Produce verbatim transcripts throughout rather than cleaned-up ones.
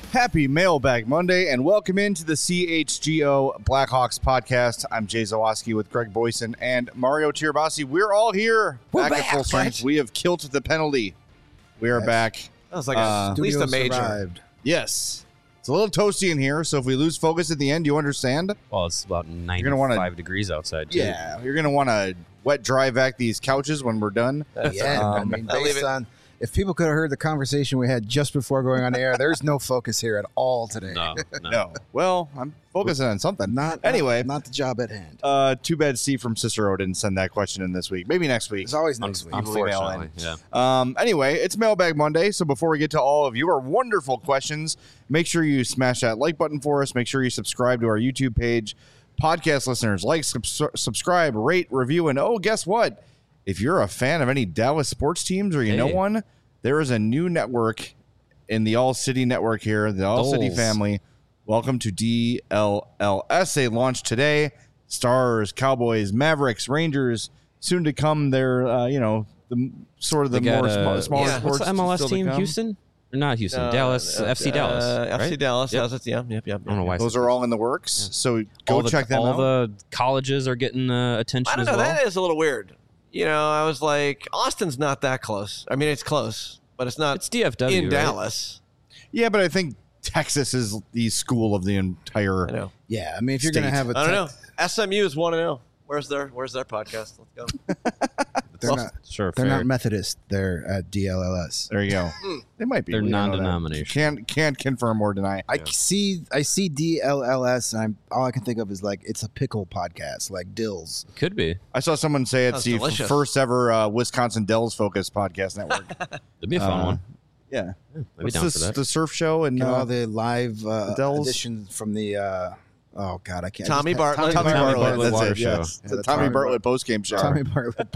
Happy Mailbag Monday, and welcome into the C H G O Blackhawks podcast. I'm Jay Zawaski with Greg Boyson and Mario Tirabassi. We're all here. We're back, back, at full strength. right? We have killed the penalty. We are Yes. back. That was like a, Uh, at least a Studio major. survived. Yes. It's a little toasty in here, so if we lose focus at the end, you understand? Well, it's about gonna ninety-five wanna- degrees outside, too. Yeah. You're going to want to wet dry vac these couches when we're done. Yeah, I Um, mean, I'll leave based it- on if people could have heard the conversation we had just before going on air, there's no focus here at all today. No, no. No. Well, I'm focusing on something. Not Anyway. not, not the job at hand. Uh, too bad Steve from Cicero didn't send that question in this week. Maybe next week. It's always next week. Unfortunately, yeah. Um, anyway, it's Mailbag Monday, so before we get to all of your wonderful questions, make sure you smash that like button for us. Make sure you subscribe to our YouTube page. Podcast listeners, like, subs- subscribe, rate, review, and oh, guess what? If you're a fan of any Dallas sports teams or you know Hey. one, there is a new network in the All City Network here, the All City Doles. family. Welcome to D L L S. They launched today. Stars, Cowboys, Mavericks, Rangers, soon to come. They're, uh, you know, the sort of the They got, more uh, sm- smaller yeah. sports. What's the M L S still to team? come. Houston? Or not Houston? Uh, Dallas. uh, F C Dallas. Uh, right? F C Dallas. Yep. Yep. That's, yeah, yep, yep. I don't know why. Those are all in the works, so go all the, check them all out. the colleges are getting uh, attention I don't as know. well. That is a little weird. You know, I was like, Austin's not that close. I mean, it's close, but it's not It's D F W, in right? Dallas. yeah, but I think Texas is the school of the entire. I know. Yeah, I mean, if you're going to State. have a I don't te- know. S M U is one and zero. Where's their Where's their podcast? Let's go. they're Well, not Sure, they're fair. not Methodist. They're at D L L S. There you go. They might be. They're We don't know that. non-denominational. Can't can't confirm or deny. I see I see D L L S, and I'm all I can think of is like it's a pickle podcast, like Dills. Could be. I saw someone say it's Sounds the f- delicious. first ever uh, Wisconsin Dells focused podcast network. It'd be a fun Uh, one. Yeah, I'd be what's down this, for that. the surf show and And uh, all the live uh, Dells? editions from the uh, oh god, I can't. I Tommy just had- Bartlett. Tommy, Tommy Bartlett. Bartlett That's water it. show. Yes. Yeah, the the Tommy, Tommy Bartlett post game show. Tommy Bartlett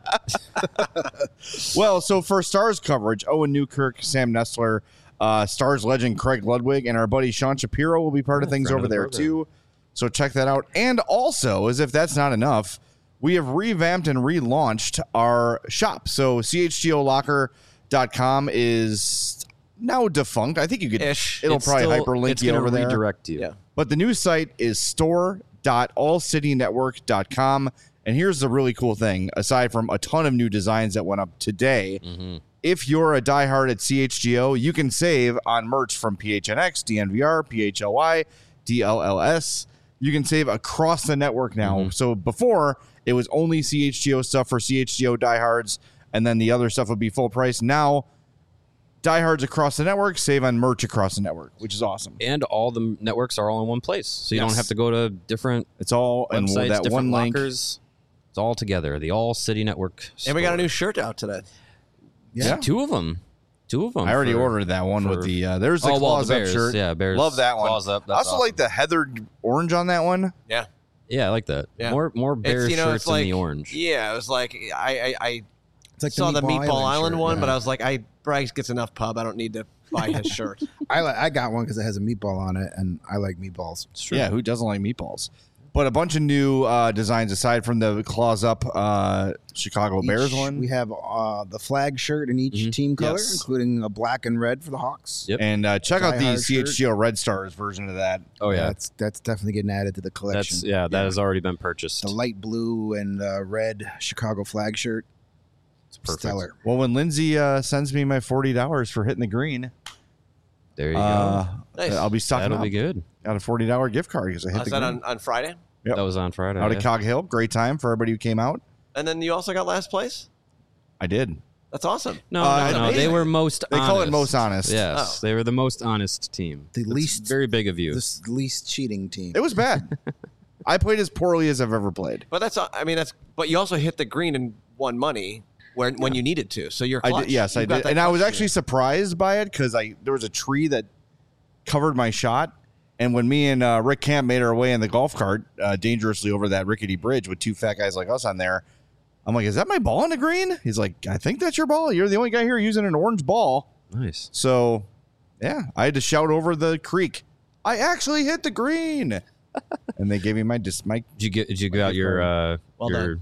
postgame. Well, so for Stars coverage, Owen Newkirk, Sam Nestler, uh, Stars legend Craig Ludwig, and our buddy Sean Shapiro will be part of Oh, things friend over of the there program. too. So check that out. And also, as if that's not enough, we have revamped and relaunched our shop. So C H G O locker dot com is now defunct. I think you could. Ish. It'll It's probably still- hyperlink it's you gonna over there. redirect you. Yeah. But the new site is store dot all city network dot com. And here's the really cool thing, aside from a ton of new designs that went up today, Mm-hmm. if you're a diehard at C H G O, you can save on merch from P H N X, D N V R, P H L Y, D L L S. You can save across the network now. Mm-hmm. So before, it was only C H G O stuff for C H G O diehards, and then the other stuff would be full price. Now, diehards across the network save on merch across the network, which is awesome. And all the networks are all in one place. So you Yes. don't have to go to different It's all in websites, that different one link. lockers. It's all together. The All City Network. And we got a store. new shirt out today. Yeah. Two of them. Two of them. I already for- ordered that one for- with the uh, there's the Oh, well, claws the up Bears. shirt. Yeah, Bears. Love that one. Claws up. I That's also awesome. like the heathered orange on that one. Yeah. Yeah, I like that. Yeah. More more Bears It's, you know, shirts it's like in the orange. Yeah, it was like I I, I It's like saw the Meatball Island, shirt, one, yeah. but I was like, I Bryce gets enough pub. I don't need to buy his shirt. I li- I got one because it has a meatball on it, and I like meatballs. Yeah, who doesn't like meatballs? But a bunch of new uh, designs aside from the claws up uh, Chicago Bears Each- one. We have uh, the flag shirt in each Mhm. team color, Yes. including a black and red for the Hawks. Yep. And uh, check out the Die Hard C H G O Red Stars version of that. Oh yeah, that's that's definitely getting added to the collection. that's yeah. That has already been purchased. the light blue and uh, red Chicago flag shirt. It's perfect. Stellar. Well, when Lindsay uh, sends me my forty dollars for hitting the green, There you uh, Nice. I'll be go. stocking That'll up. be good. Got a forty dollar gift card because I hit Uh, the is that green. on, on Friday? Yep. That was on Friday. Out yeah. of Cog Hill. Great time for everybody who came out. And then you also got last place? I did. That's awesome. No, Uh, no, no. They amazing. were most. They honest. call it most honest. Yes, Oh. they were the most honest team. The That's least- very big of you. This least cheating team. It was bad. I played as poorly as I've ever played. But that's, I mean, that's, but you also hit the green and won money when, when you needed to. So you're I clutch. did, yes, I You've got did, that and I was clutch actually in surprised by it because I there was a tree that covered my shot, and when me and uh, Rick Camp made our way in the golf cart uh, dangerously over that rickety bridge with two fat guys like us on there, I'm like, "Is that my ball on the green?" He's like, "I think that's your ball. You're the only guy here using an orange ball." Nice. So, yeah, I had to shout over the creek, "I actually hit the green!" And they gave me my dis my Did you get? Did you get out your uh, Well your done.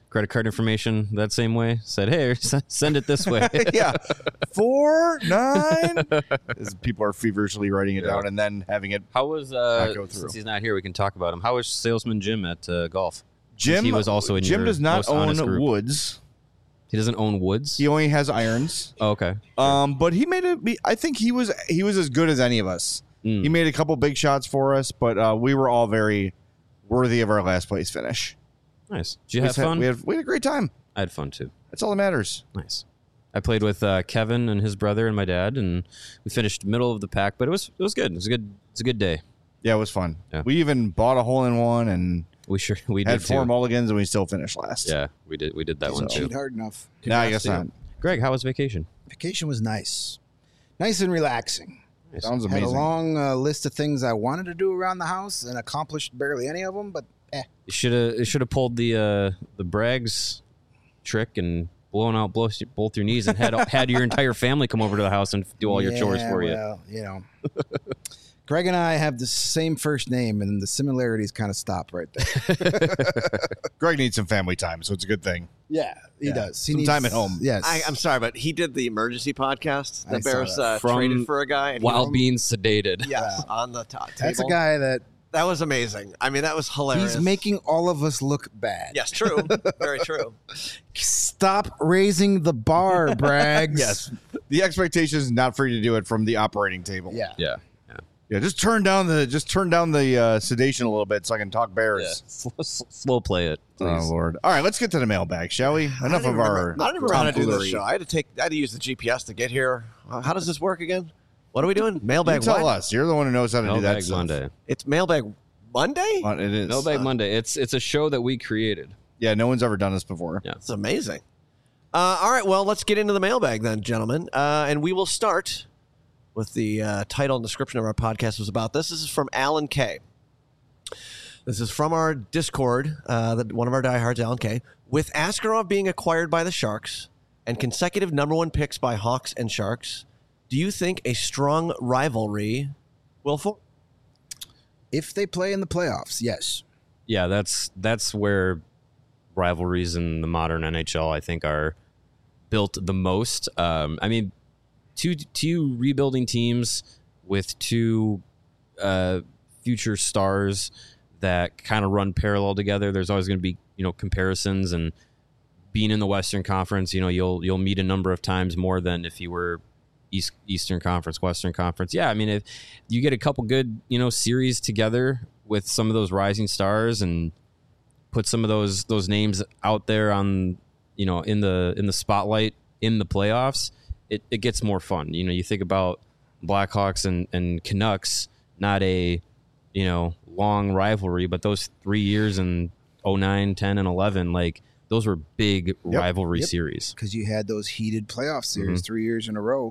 credit card information that same way. Said, hey, send it this way. yeah, four nine. As people are feverishly writing it Yeah. down and then having it. How was uh? Not go through. Since he's not here, we can talk about him. How was Salesman Jim at uh, golf? Jim he was also in Jim your does not most own honest group. woods. He doesn't own woods. He only has irons. Oh, okay. Um, but he made it. I think he was he was as good as any of us. Mm. He made a couple big shots for us, but uh, we were all very worthy of our last place finish. Nice. Did you we have had, fun? We had we had a great time. I had fun too. That's all that matters. Nice. I played with uh, Kevin and his brother and my dad, and we finished middle of the pack. But it was it was good. It was a good. It's a good day. Yeah, it was fun. Yeah. We even bought a hole in one and We sure we had did four too. mulligans, and we still finished last. Yeah, we did. We did that one Didn't too. cheat hard enough. No, I guess Congrats to not. you. Greg, how was vacation? Vacation was nice, nice and relaxing. Nice. Sounds Had a amazing. long uh, list of things I wanted to do around the house and accomplished barely any of them. But eh, You should have. You should have pulled the uh, the Braggs trick and blown out both both your knees and had had your entire family come over to the house and do all your chores yeah, for you. well, you know. Greg and I have the same first name, and the similarities kind of stop right there. Greg needs some family time, so it's a good thing. Yeah, he Yeah. does. He Some needs, time at home. Yes, I, I'm sorry, but he did the emergency podcast. I The saw Bears that. uh, From traded for a guy. And he While was- being sedated. yes, on the top table. That's a guy that That was amazing. I mean, that was hilarious. he's making all of us look bad. Yes, true. Very true. Stop raising the bar, Braggs. Yes, the expectation is not for you to do it from the operating table. Yeah. Yeah. yeah. Just turn down the just turn down the uh, sedation a little bit so I can talk Bears. Slow, slow play it, Oh please. Lord! All right, let's get to the mailbag, shall we? I Enough don't of even our. remember- I don't even remember how to do this tomfoolery. show. I had to take. I had to use the G P S to get here. Uh, How does this work again? What are we doing? You Mailbag. tell what? us. You're the one who knows how to do that Mailbag stuff. Monday. It's Mailbag Monday. Uh, It is. Mailbag Monday. It's it's a show that we created. Yeah, no one's ever done this before. Yeah. It's amazing. Uh, all right, well, let's get into the mailbag then, gentlemen. Uh, and we will start with the uh, title and description of our podcast was about this. This is from Alan K. This is from our Discord, uh, the, one of our diehards, Alan K. With Askarov being acquired by the Sharks and consecutive number one picks by Hawks and Sharks, do you think a strong rivalry will form? If they play in the playoffs, yes. Yeah, that's that's where rivalries in the modern N H L, I think, are built the most. Um, I mean, two two rebuilding teams with two uh, future stars that kind of run parallel together. There's always going to be, you know, comparisons, and being in the Western Conference, you know, you'll you'll meet a number of times more than if you were East Eastern Conference, Western Conference. Yeah, I mean, if you get a couple good, you know, series together with some of those rising stars and put some of those those names out there on, you know, in the in the spotlight in the playoffs, it, it gets more fun. You know, you think about Blackhawks and, and Canucks, not a, you know, long rivalry, but those three years in oh nine, ten, and eleven, like those were big rivalry yep. series. Because you had those heated playoff series Mhm. three years in a row.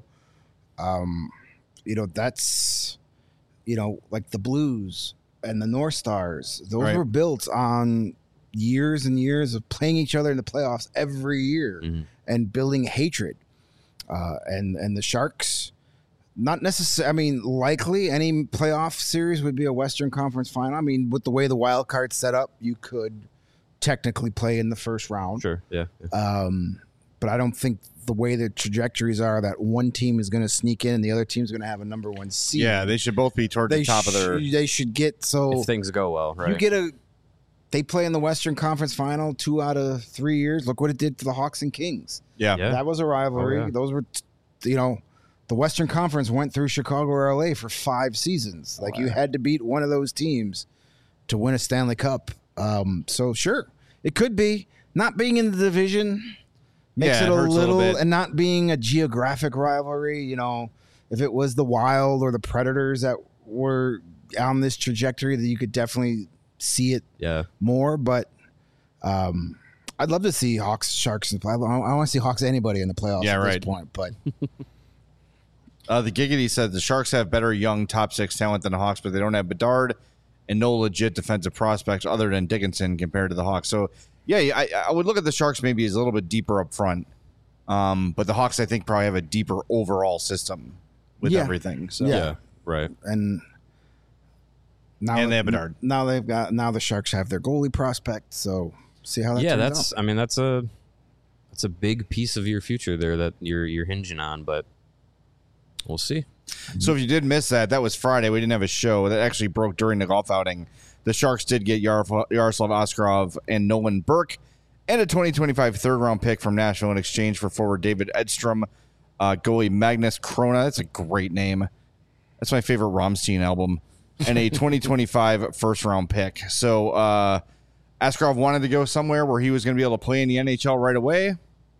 Um, you know, that's, you know, like the Blues and the North Stars. Those Right. were built on years and years of playing each other in the playoffs every year Mhm. and building hatred. Uh, and and the Sharks, not necessarily. I mean, likely any playoff series would be a Western Conference final. I mean, with the way the wild card's set up, you could technically play in the first round. Sure, yeah. yeah. Um, but I don't think the way the trajectories are that one team is going to sneak in and the other team's going to have a number one seed. Yeah, they should both be toward they the top of their. sh- They should get so If things go well, right? you get a. They play in the Western Conference Final two out of three years. Look what it did for the Hawks and Kings. Yeah. Yeah. That was a rivalry. Oh, yeah. Those were, t- you know, the Western Conference went through Chicago or L A for five seasons. Like you had to beat one of those teams to win a Stanley Cup. Um, so sure, it could be not being in the division makes Yeah, it it a hurts a little little, bit. and not being a geographic rivalry. You know, if it was the Wild or the Predators that were on this trajectory, that you could definitely see it yeah. more. But um, I'd love to see Hawks, Sharks, and I, I want to see Hawks anybody in the playoffs Yeah, at right. this point. But Uh, the Giggity said the Sharks have better young top six talent than the Hawks, but they don't have Bedard and no legit defensive prospects other than Dickinson compared to the Hawks. So, yeah, I, I would look at the Sharks maybe as a little bit deeper up front. Um, but the Hawks, I think, probably have a deeper overall system with Yeah. everything. So, Yeah. Yeah, right. and now And they have Bedard. Now they've got now the Sharks have their goalie prospect. So See how that yeah, turns that's. out. I mean, that's a that's a big piece of your future there that you're you're hinging on, but we'll see. So if you did miss that, that was Friday. We didn't have a show. That actually broke during the golf outing. The Sharks did get Yarf- Yaroslav Askarov and Nolan Burke and a twenty twenty-five third-round pick from Nashville in exchange for forward David Edstrom, uh, goalie Magnus Krona. That's a great name. That's my favorite Rammstein album. And a twenty twenty-five first-round pick. So uh, Askarov wanted to go somewhere where he was going to be able to play in the N H L right away.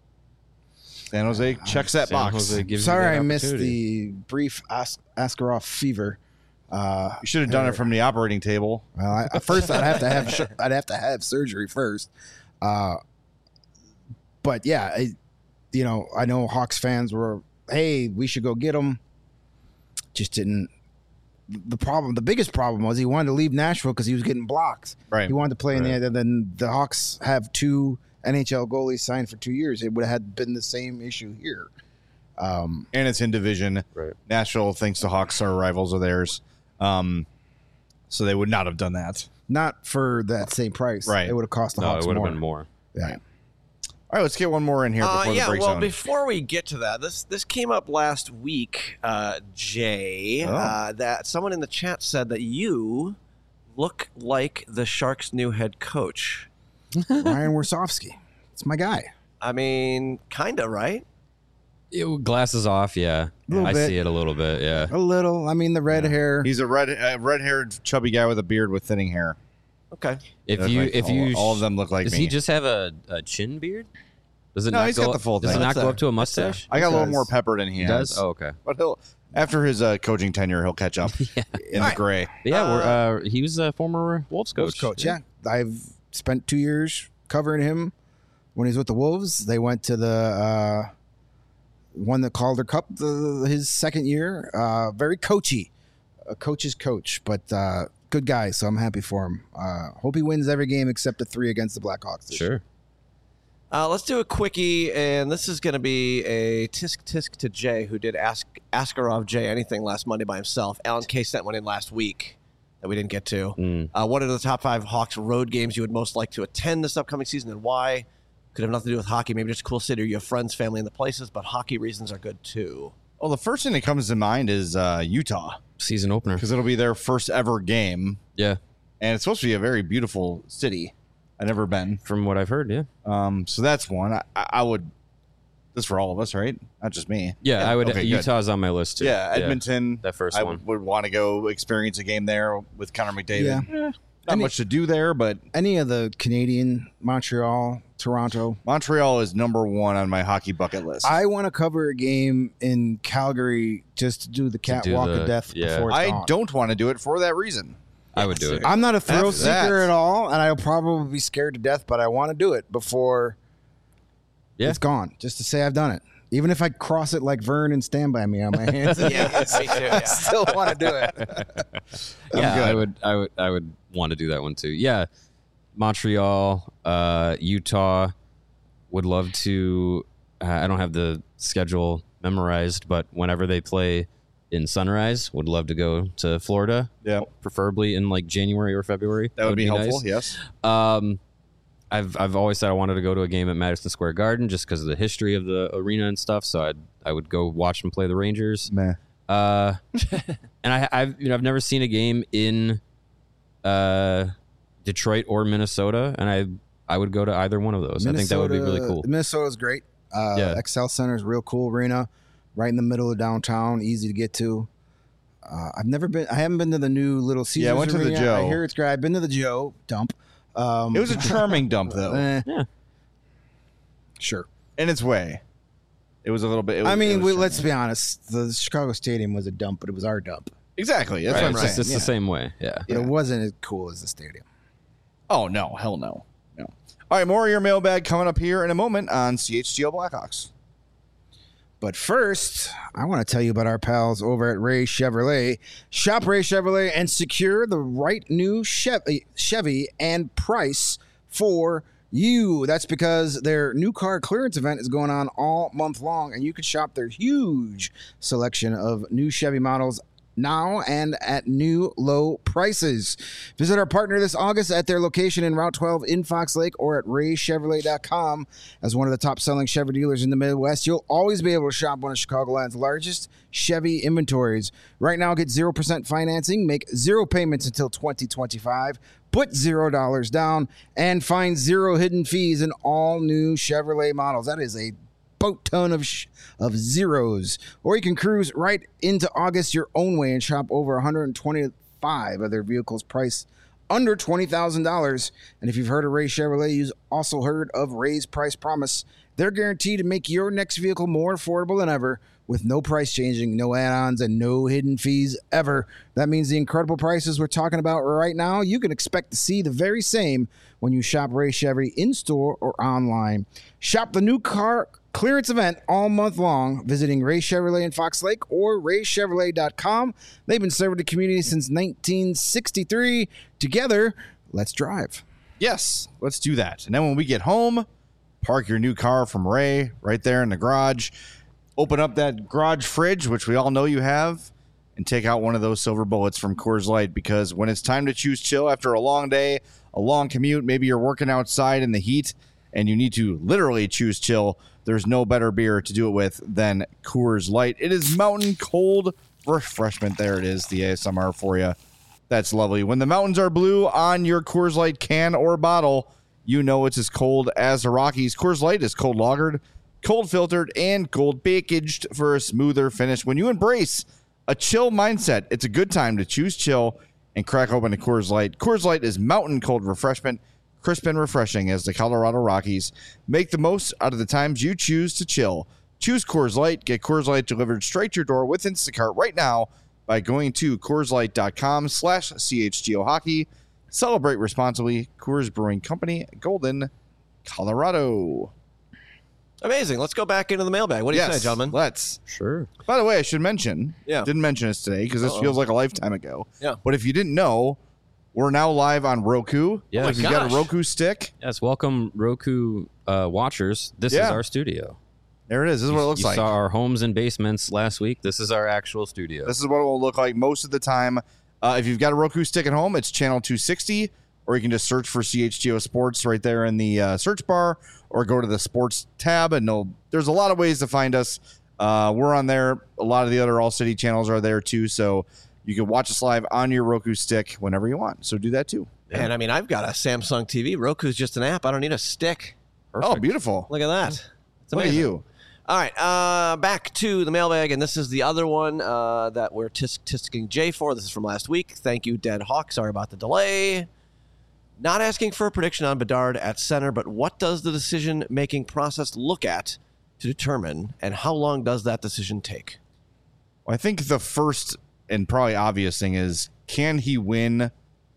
San Jose checks that San box. Jose gives you Sorry, that I missed opportunity. the brief As- Askarov fever. Uh, You should have done it from the operating table. well, I, at first I'd have to have sh- I'd have to have surgery first. Uh, but yeah, I, you know, I know Hawks fans were, hey, we should go get him. Just didn't. The problem, the biggest problem was he wanted to leave Nashville because he was getting blocked. Right. He wanted to play Right. in the. Then the Hawks have two N H L goalies signed for two years. It would have had been the same issue here. Um, And it's in division. Right. Nashville thinks the Hawks are rivals of theirs. Um, so they would not have done that. not for that same price. Right. It would have cost the No, Hawks it would have more. been more. Yeah. All right, let's get one more in here before Uh, the yeah, break well, zone. before we get to that, this this came up last week, uh, Jay. Oh. Uh, that someone in the chat said that you look like the Sharks' new head coach. Ryan Warsofsky. It's my guy. I mean, kinda, right? It, glasses off, yeah. Little I bit. see it a little bit, yeah. A little. I mean, the red hair. He's a red, uh, red-haired, chubby guy with a beard with thinning hair. Okay. If Look you, like- if all, you, all of them look like does me. he just have a, a chin beard? Does it No, not he's go got up- the full Does thing. it not That's go there. up to a That's there. mustache? I got a little does. more pepper than he, He has. does. Oh, okay. But he'll after his uh, coaching tenure, he'll catch up in the Alright. gray. But yeah, we're, uh, he was a former Wolves coach. Coach. Yeah. I've spent two years covering him when he was with the Wolves. They went to the uh, won the Calder Cup the, his second year. Uh, very coachy, a coach's coach, but uh, good guy. So I'm happy for him. Uh, hope he wins every game except the three against the Blackhawks. this year. Sure. Uh, let's do a quickie, and this is going to be a tisk tisk to Jay, who did ask Askarov Jay anything last Monday by himself. Alan K sent one in last week that we didn't get to. Mm. Uh, what are the top five Hawks road games you would most like to attend this upcoming season, and why? Could have nothing to do with hockey. Maybe just a cool city, or you have friends, family in the places, but hockey reasons are good too. Well, the first thing that comes to mind is uh, Utah, Season opener. because it'll be their first ever game, Yeah. and it's supposed to be a very beautiful city. I've never been. From what I've heard, yeah. Um, so that's one. I, I would. This for all of us, right? Not just me. Yeah, I would. Okay, good. Utah's on my list too. Yeah, Edmonton. that first I one. would want to go experience a game there with Connor McDavid. Yeah. Eh, not Any- much to do there, but Any of the Canadian, Montreal, Toronto. Montreal is number one on my hockey bucket list. I want to cover a game in Calgary just to do the do catwalk the- of death yeah. before it's I gone. don't want to do it for that reason. I would do it. I'm not a thrill After that- seeker at all, and I'll probably be scared to death, but I want to do it before Yeah. it's gone, just to say I've done it. Even if I cross it like Vern and stand by me on my hands, Yeah, me too. I Yeah. still want to do it. yeah, good. I would. I would. I would want to do that one too. Yeah, Montreal, uh, Utah. Would love to. Uh, I don't have the schedule memorized, but whenever they play in Sunrise, would love to go to Florida. Yeah. preferably in like January or February. That would, be, helpful. nice. Yes. Um, I've I've always said I wanted to go to a game at Madison Square Garden just because of the history of the arena and stuff. So I'd I would go watch them play the Rangers. Meh. Uh, and I I've you know I've never seen a game in uh Detroit or Minnesota, and I I would go to either one of those. I think that would be really cool. Minnesota's great. Uh, Yeah. Excel Center is a real cool arena, right in the middle of downtown, easy to get to. Uh, I've never been. I haven't been to the new Little Caesars. Yeah, I went to the arena. Joe. I hear it's great. I've been to the Joe dump. Um, It was a charming dump, though, eh, Yeah. sure. in its way. It was a little bit. It was, I it mean, was we, charming. let's be honest. The Chicago Stadium was a dump, but it was our dump. exactly. That's Right, what I'm it's saying. just it's yeah. the same way. Yeah. But it wasn't as cool as the stadium. Oh no, hell no, no. All right, more of your mailbag coming up here in a moment on C H G O Blackhawks. But first, I want to tell you about our pals over at Ray Chevrolet. Shop Ray Chevrolet and secure the right new Chevy, Chevy and price for you. That's because their new car clearance event is going on all month long, and you can shop their huge selection of new Chevy models now and at new low prices. Visit our partner this August at their location in Route twelve in Fox Lake or at ray chevrolet dot com. As one of the top selling Chevy dealers in the Midwest, you'll always be able to shop one of Chicagoland's largest Chevy inventories. Right now, get zero percent financing, make zero payments until twenty twenty-five, put zero dollars down, and find zero hidden fees in all new Chevrolet models. That is a boat ton of sh- of zeros. Or you can cruise right into August your own way and shop over one hundred twenty-five of their vehicles priced under twenty thousand dollars. And if you've heard of Ray Chevrolet, you've also heard of Ray's Price Promise. They're guaranteed to make your next vehicle more affordable than ever with no price changing, no add-ons, and no hidden fees ever. That means the incredible prices we're talking about right now, you can expect to see the very same when you shop Ray Chevy in-store or online. Shop the new car clearance event all month long, visiting Ray Chevrolet in Fox Lake or ray chevrolet dot com. They've been serving the community since nineteen sixty-three. Together, let's drive. Yes, let's do that. And then when we get home, park your new car from Ray right there in the garage. Open up that garage fridge, which we all know you have, and take out one of those silver bullets from Coors Light, because when it's time to choose chill after a long day, a long commute, maybe you're working outside in the heat, and you need to literally choose chill, there's no better beer to do it with than Coors Light. It is mountain cold refreshment. There it is, the A S M R for you. That's lovely. When the mountains are blue on your Coors Light can or bottle, you know it's as cold as the Rockies. Coors Light is cold lagered, cold filtered, and cold packaged for a smoother finish. When you embrace a chill mindset, it's a good time to choose chill and crack open a Coors Light. Coors Light is mountain cold refreshment, crisp and refreshing as the Colorado Rockies. Make the most out of the times you choose to chill. Choose Coors Light. Get Coors Light delivered straight to your door with Instacart right now by going to Coors Light dot com slash C H G O Hockey. Celebrate responsibly. Coors Brewing Company, Golden, Colorado. Amazing. Let's go back into the mailbag. What do you Yes, say, gentlemen? Let's. Sure. By the way, I should mention, Yeah. didn't mention this today because this Uh-oh. feels like a lifetime ago. Yeah. But if you didn't know, we're now live on Roku. Yeah. Oh my If you've got gosh. a Roku stick, Yes, welcome Roku uh, watchers. This Yeah. is our studio. there it is. This is what it looks you like. saw our homes and basements last week. This is our actual studio. This is what it will look like most of the time. Uh, if you've got a Roku stick at home, it's channel two sixty, or you can just search for C H G O Sports right there in the uh, search bar, or go to the sports tab, and they'll, there's a lot of ways to find us. Uh, we're on there. A lot of the other All City channels are there too, so you can watch us live on your Roku stick whenever you want. So do that too. And I mean, I've got a Samsung T V. Roku's just an app. I don't need a stick. Oh, beautiful. Look at that. It's Look at amazing. you. All right, uh, back to the mailbag, and this is the other one uh, that we're tisk tisking Jay for. This is from last week. Thank you, Dead Hawk. Sorry about the delay. Not asking for a prediction on Bedard at center, but what does the decision-making process look at to determine, and how long does that decision take? Well, I think the first and probably obvious thing is, can he win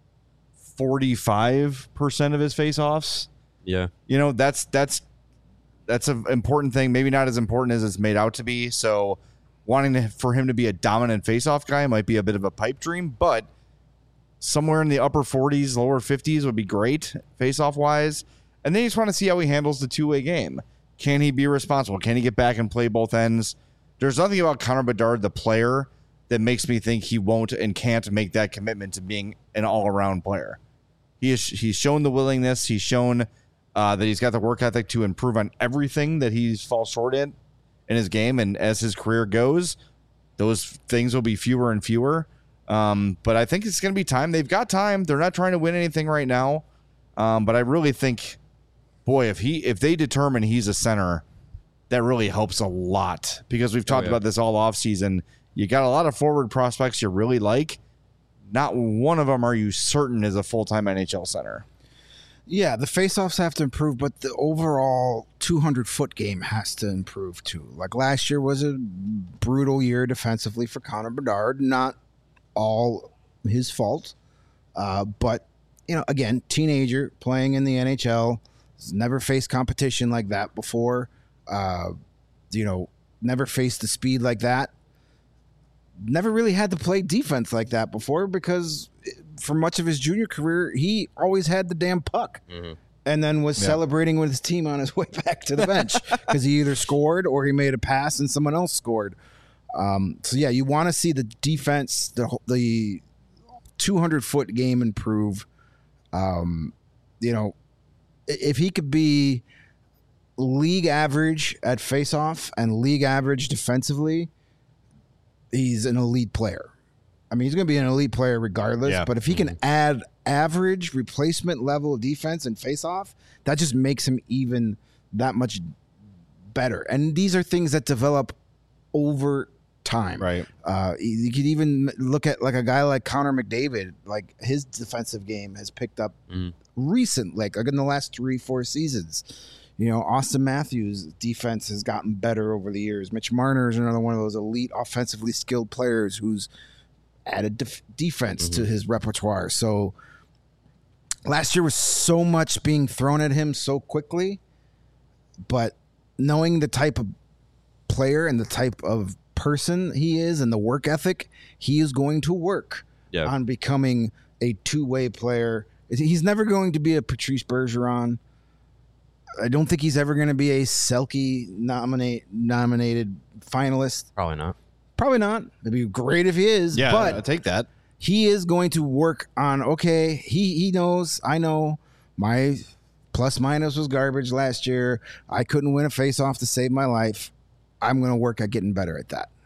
forty-five percent of his faceoffs? Yeah. You know, that's that's that's an important thing. Maybe not as important as it's made out to be. So wanting to, for him to be a dominant faceoff guy might be a bit of a pipe dream, but somewhere in the upper forties, lower fifties would be great faceoff wise. And then you just want to see how he handles the two-way game. Can he be responsible? Can he get back and play both ends? There's nothing about Connor Bedard, the player, that makes me think he won't and can't make that commitment to being an all-around player. He is, he's shown the willingness. He's shown uh, that he's got the work ethic to improve on everything that he's falls short in in his game. And as his career goes, those things will be fewer and fewer. Um, but I think it's going to be time. They've got time. They're not trying to win anything right now. Um, but I really think, boy, if he if they determine he's a center, that really helps a lot, because we've talked yeah. about this all offseason. You got a lot of forward prospects you really like. Not one of them are you certain is a full-time N H L center. Yeah, the faceoffs have to improve, but the overall two hundred foot game has to improve too. Like last year was a brutal year defensively for Connor Bedard. Not all his fault, uh, but you know, again, teenager playing in the N H L, has never faced competition like that before. Uh, you know, never faced the speed like that. Never really had to play defense like that before, because for much of his junior career, he always had the damn puck. Mm-hmm. And then was Yeah. celebrating with his team on his way back to the bench because he either scored or he made a pass and someone else scored. Um, so yeah, you want to see the defense, the the two hundred foot game improve. Um, you know, if he could be league average at faceoff and league average defensively, he's an elite player. I mean, he's going to be an elite player regardless. Yeah. But if he can add average replacement level defense and faceoff, that just makes him even that much better. And these are things that develop over time. Right. Uh, you could even look at like a guy like Connor McDavid. Like his defensive game has picked up Mhm. recent, like, like in the last three, four seasons. You know, Austin Matthews' defense has gotten better over the years. Mitch Marner is another one of those elite offensively skilled players who's added def- defense Mm-hmm. to his repertoire. So last year was so much being thrown at him so quickly, but knowing the type of player and the type of person he is and the work ethic, he is going to work Yeah. on becoming a two-way player. He's never going to be a Patrice Bergeron. I don't think he's ever going to be a Selke nominate nominated finalist. Probably not. Probably not. It'd be great if he is, Yeah, but I'll take that. he is going to work on, okay, he he knows, I know my plus minus was garbage last year. I couldn't win a face-off to save my life. I'm going to work at getting better at that.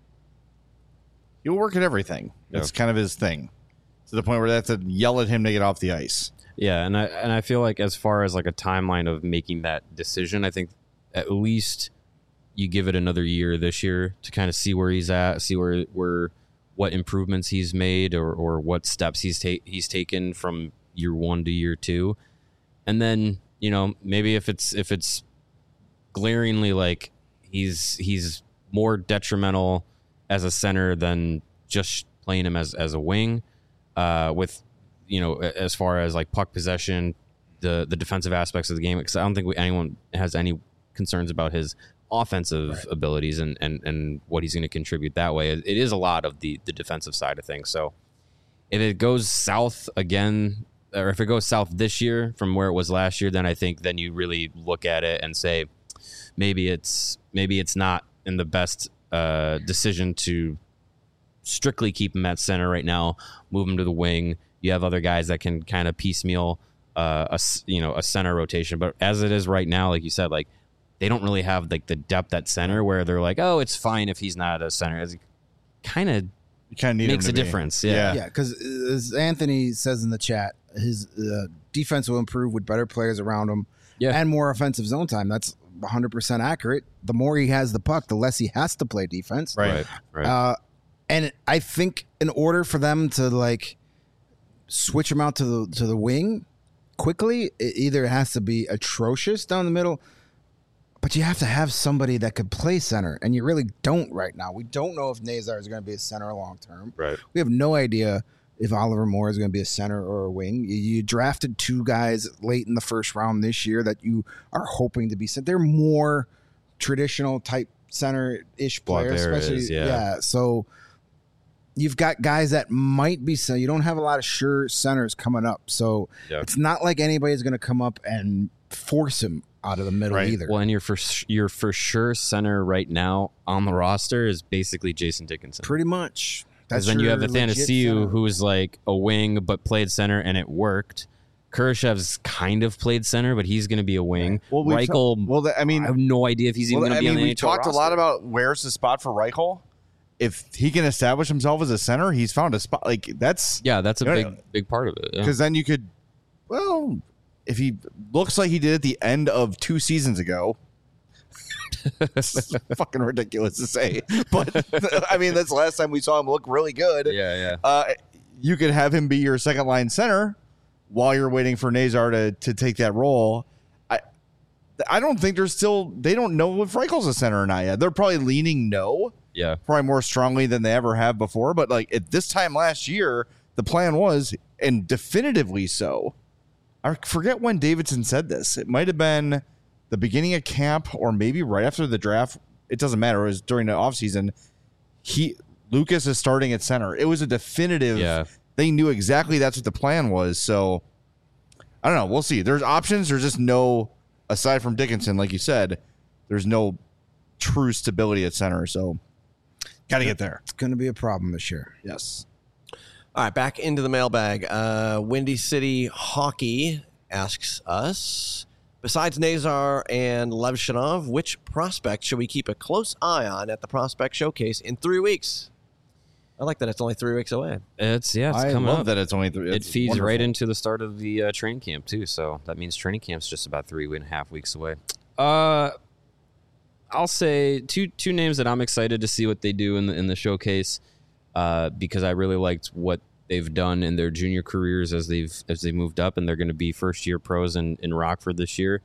He'll work at everything. That's kind of his thing. To the point where they have to yell at him to get off the ice. Yeah, and I and I feel like as far as like a timeline of making that decision, I think at least you give it another year this year to kind of see where he's at, see where where what improvements he's made or or what steps he's ta- he's taken from year one to year two, and then you know maybe if it's if it's glaringly like he's he's more detrimental as a center than just playing him as as a wing, uh, with. You know, as far as like puck possession, the the defensive aspects of the game, because I don't think we, anyone has any concerns about his offensive right. abilities and, and, and what he's going to contribute that way. It, it is a lot of the, the defensive side of things. So if it goes south again, or if it goes south this year from where it was last year, then I think then you really look at it and say maybe it's maybe it's not in the best uh, decision to strictly keep him at center right now, move him to the wing. You have other guys that can kind of piecemeal uh, a you know a center rotation, but as it is right now, like you said, like they don't really have like the depth at center where they're like, oh, it's fine if he's not a center. It kind of kind of makes a be. difference. Yeah, yeah. Because as Anthony says in the chat, his uh, defense will improve with better players around him yeah. and more offensive zone time. That's one hundred percent accurate. The more he has the puck, the less he has to play defense. Right. right, right. Uh, and I think in order for them to like switch him out to the to the wing quickly, it either has to be atrocious down the middle, but you have to have somebody that could play center, and you really don't right now. We don't know if Nazar is going to be a center long term. Right. We have no idea if Oliver Moore is going to be a center or a wing. You, you drafted two guys late in the first round this year that you are hoping to be center. They're more traditional type center-ish players, Blackberry especially is, yeah. yeah. So you've got guys that might be center. You don't have a lot of sure centers coming up, so Yeah. it's not like anybody's going to come up and force him out of the middle Right. either. Well, and your for your for sure center right now on the roster is basically Jason Dickinson. Pretty much. Because then you have your legit Athanasiou, center. who is like a wing but played center and it worked. Kurashev's kind of played center, but he's going to be a wing. Well, we Reichel, well, the, I mean, I have no idea if he's even well, going I to be mean, on the we N H L talked a lot roster. about where's the spot for Reichel. If he can establish himself as a center, he's found a spot. Like that's Yeah, that's a You know, big big part of it. Yeah. because then you could, well, if he looks like he did at the end of two seasons ago. It's fucking ridiculous to say, but I mean that's the last time we saw him look really good. Yeah, yeah. Uh, you could have him be your second line center while you're waiting for Nazar to to take that role. I I don't think there's still they don't know if Reichel's a center or not yet. They're probably leaning no, Yeah. probably more strongly than they ever have before. But like at this time last year, the plan was, and definitively so. I forget when Davidson said this. It might have been the beginning of camp or maybe right after the draft. It doesn't matter. It was during the offseason. He Lucas is starting at center. It was a definitive. Yeah. They knew exactly that's what the plan was. So I don't know. We'll see. There's options. There's just no, aside from Dickinson, like you said, there's no true stability at center. So Got to get there. It's going to be a problem this year. Yes. All right, back into the mailbag. Uh, Windy City Hockey asks us, besides Nazar and Levshinov, which prospect should we keep a close eye on at the Prospect Showcase in three weeks? I like that it's only three weeks away. It's yeah, it's I coming love up. that it's only three. It It's feeds wonderful. right into the start of the uh, training camp too. So that means training camp's just about three and a half weeks away. Uh, I'll say two two names that I'm excited to see what they do in the in the showcase, uh, because I really liked what they've done in their junior careers as they've as they moved up, and they're going to be first year pros in, in Rockford this year.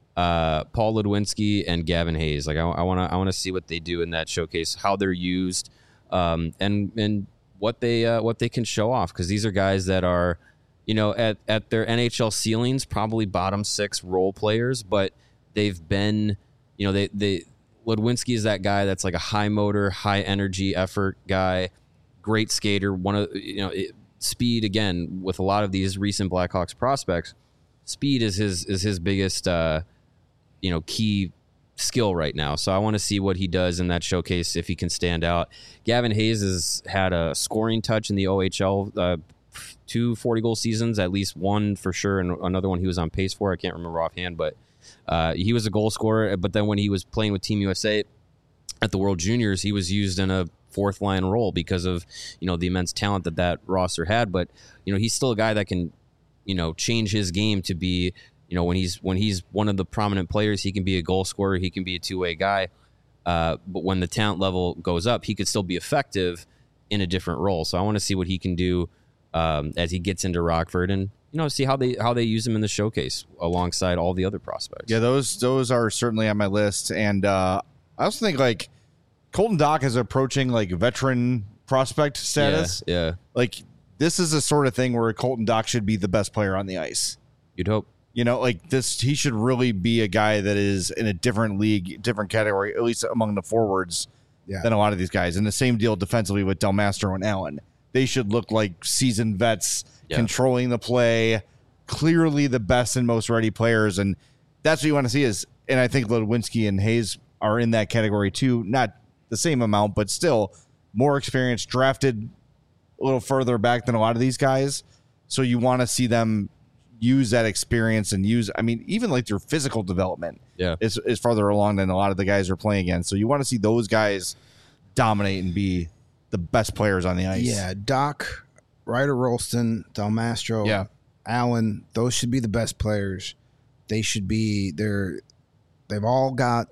Uh, Paul Ludwinski and Gavin Hayes. Like I want to I want to see what they do in that showcase, how they're used, um, and and what they uh, what they can show off, because these are guys that are, you know, at at their N H L ceilings probably bottom six role players, but they've been, you know, they they Ludwinski is that guy that's like a high motor, high energy effort guy, great skater. One of you know it, speed again with a lot of these recent Blackhawks prospects. Speed is his is his biggest uh, you know key skill right now. So I want to see what he does in that showcase, if he can stand out. Gavin Hayes has had a scoring touch in the O H L, uh, two forty-goal seasons, at least one for sure, and another one he was on pace for. I can't remember offhand, but uh, he was a goal scorer. But then when he was playing with Team U S A at the World Juniors, he was used in a fourth line role because of, you know, the immense talent that that roster had. But, you know, he's still a guy that can, you know, change his game to be, you know, when he's when he's one of the prominent players, he can be a goal scorer, he can be a two-way guy. Uh, but when the talent level goes up, he could still be effective in a different role. So I want to see what he can do um, as he gets into Rockford, and, you know, see how they how they use him in the showcase alongside all the other prospects. Yeah, those those are certainly on my list, and uh, I also think like Colton Dach is approaching like veteran prospect status. Yeah, yeah. Like this is the sort of thing where Colton Dach should be the best player on the ice. You'd hope. You know, like this, he should really be a guy that is in a different league, different category, at least among the forwards, Yeah. than a lot of these guys. And the same deal defensively with Del Mastro and Allen. They should look like seasoned vets, Yeah. controlling the play, clearly the best and most ready players. And that's what you want to see is, and I think Ludwinski and Hayes are in that category too. Not the same amount, but still more experience, drafted a little further back than a lot of these guys. So you want to see them use that experience and use, I mean, even like their physical development Yeah. is, is farther along than a lot of the guys are playing against. So you want to see those guys dominate and be the best players on the ice. Yeah, Doc, Ryder Rolston, Del Mastro, Yeah. Allen, those should be the best players. They should be they're they've all got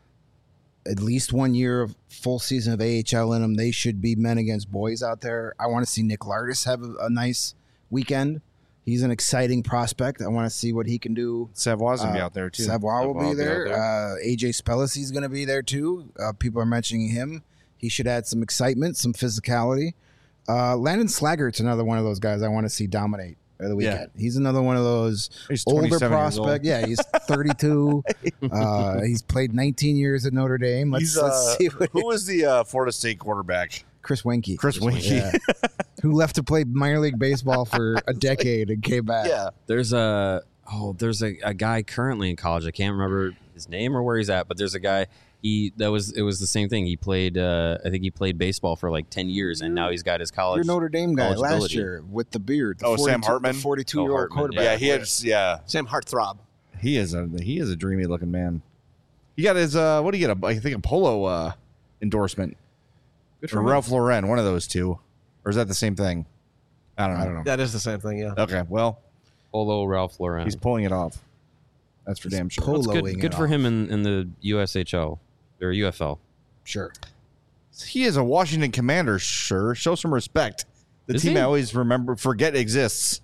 at least one year of full season of A H L in them. They should be men against boys out there. I want to see Nick Lardis have a, a nice weekend. He's an exciting prospect. I want to see what he can do. Savoy's going to be Uh, out there too. Savoy will Savoy be will be out there. there. Uh, A J Spellis's going to be there too. Uh, people are mentioning him. He should add some excitement, some physicality. Uh, Landon Slaggert's another one of those guys I want to see dominate at the weekend. He's another one of those He's older twenty-seven years old. prospect. Yeah, he's thirty-two. uh, he's played nineteen years at Notre Dame. Let's, He's, let's uh, see what who was the uh, Florida State quarterback? Chris Wenke. Chris Winkie. Yeah. Who left to play minor league baseball for a decade and came back. Yeah. There's a oh, there's a, a guy currently in college. I can't remember his name or where he's at, but there's a guy. He that was it was the same thing. He played. Uh, I think he played baseball for like ten years, and now he's got his college. Your Notre Dame guy last eligibility. year with the beard. The Oh, Sam 42 Hartman? the forty-two-year-old Oh, Hartman, quarterback. Yeah, he had, yeah, Sam Heartthrob. he is a he is a dreamy looking man. He got his uh, what do you get? A, I think a polo uh, endorsement. Good Or him. Ralph Lauren, one of those two, or is that the same thing? I don't know. I don't know. That is the same thing, yeah. Okay, well, Polo Ralph Lauren. he's pulling it off. That's for damn sure. pull- That's poloing good. it Good for off. him in, in the U S H L or U F L. Sure. He is a Washington Commander, sure. Show some respect. The Is team he? I always remember forget exists.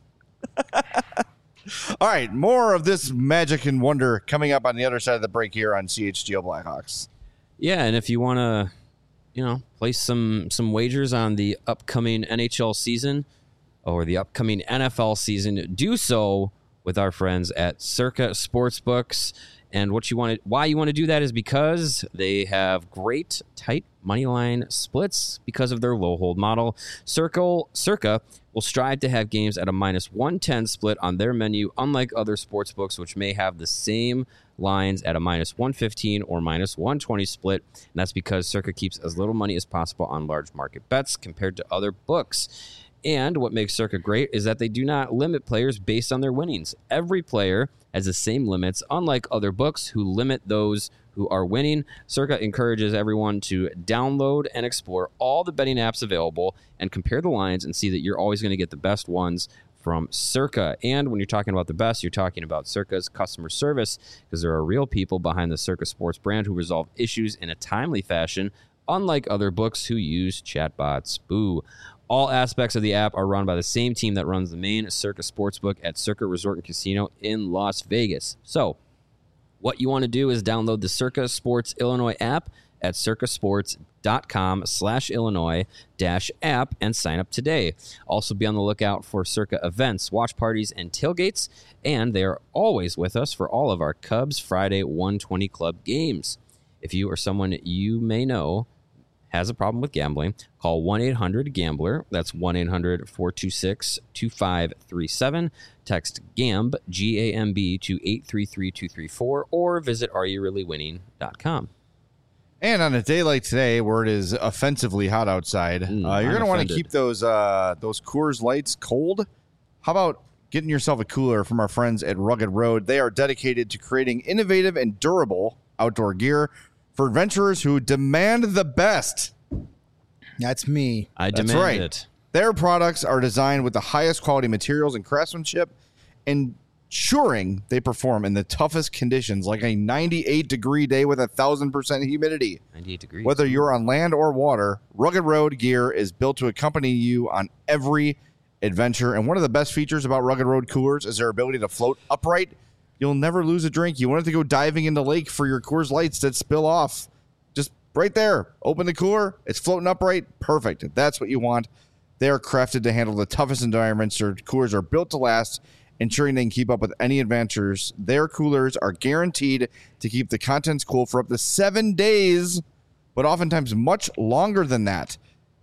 All right, more of this magic and wonder coming up on the other side of the break here on C H G O Blackhawks. Yeah, and if you want to, you know, place some some wagers on the upcoming N H L season or the upcoming N F L season, do so with our friends at Circa Sportsbooks. And what you want to, why you want to do that is because they have great tight money line splits because of their low hold model. Circle Circa will strive to have games at a minus one ten split on their menu, unlike other sports books, which may have the same lines at a minus one fifteen or minus one twenty split. And that's because Circa keeps as little money as possible on large market bets compared to other books. And what makes Circa great is that they do not limit players based on their winnings. Every player has the same limits, unlike other books who limit those who are winning. Circa encourages everyone to download and explore all the betting apps available and compare the lines and see that you're always going to get the best ones from Circa. And when you're talking about the best, you're talking about Circa's customer service, because there are real people behind the Circa Sports brand who resolve issues in a timely fashion, unlike other books who use chatbots. Boo. All aspects of the app are run by the same team that runs the main Circa Sportsbook at Circa Resort and Casino in Las Vegas. So, what you want to do is download the Circa Sports Illinois app at circasports.com slash Illinois dash app and sign up today. Also be on the lookout for Circa events, watch parties, and tailgates, and they are always with us for all of our Cubs Friday one twenty Club games. If you or someone you may know has a problem with gambling, call one eight hundred gambler. That's one eight hundred four two six two five three seven. Text GAMB, G A M B, to eight three three two three four or visit are you really winning dot com. And on a day like today, where it is offensively hot outside, Mm, uh, you're I'm going to want to offended. keep those uh, those Coors Lights cold. How about getting yourself a cooler from our friends at Rugged Road? They are dedicated to creating innovative and durable outdoor gear for adventurers who demand the best. That's me. I That's demand right. it. Their products are designed with the highest quality materials and craftsmanship, ensuring they perform in the toughest conditions, like a ninety-eight degree day with a one thousand percent humidity. ninety-eight degrees. Whether you're on land or water, Rugged Road gear is built to accompany you on every adventure. And one of the best features about Rugged Road coolers is their ability to float upright. You'll never lose a drink. You want it to go diving in the lake for your Coors Lights that spill off. Just right there. Open the cooler. It's floating upright. Perfect. That's what you want. They are crafted to handle the toughest environments. Their coolers are built to last, ensuring they can keep up with any adventures. Their coolers are guaranteed to keep the contents cool for up to seven days, but oftentimes much longer than that.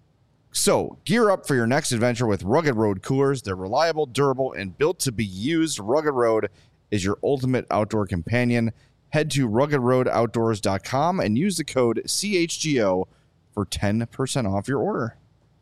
So, gear up for your next adventure with Rugged Road coolers. They're reliable, durable, and built to be used. Rugged Road is your ultimate outdoor companion. Head to rugged road outdoors dot com and use the code C H G O for ten percent off your order.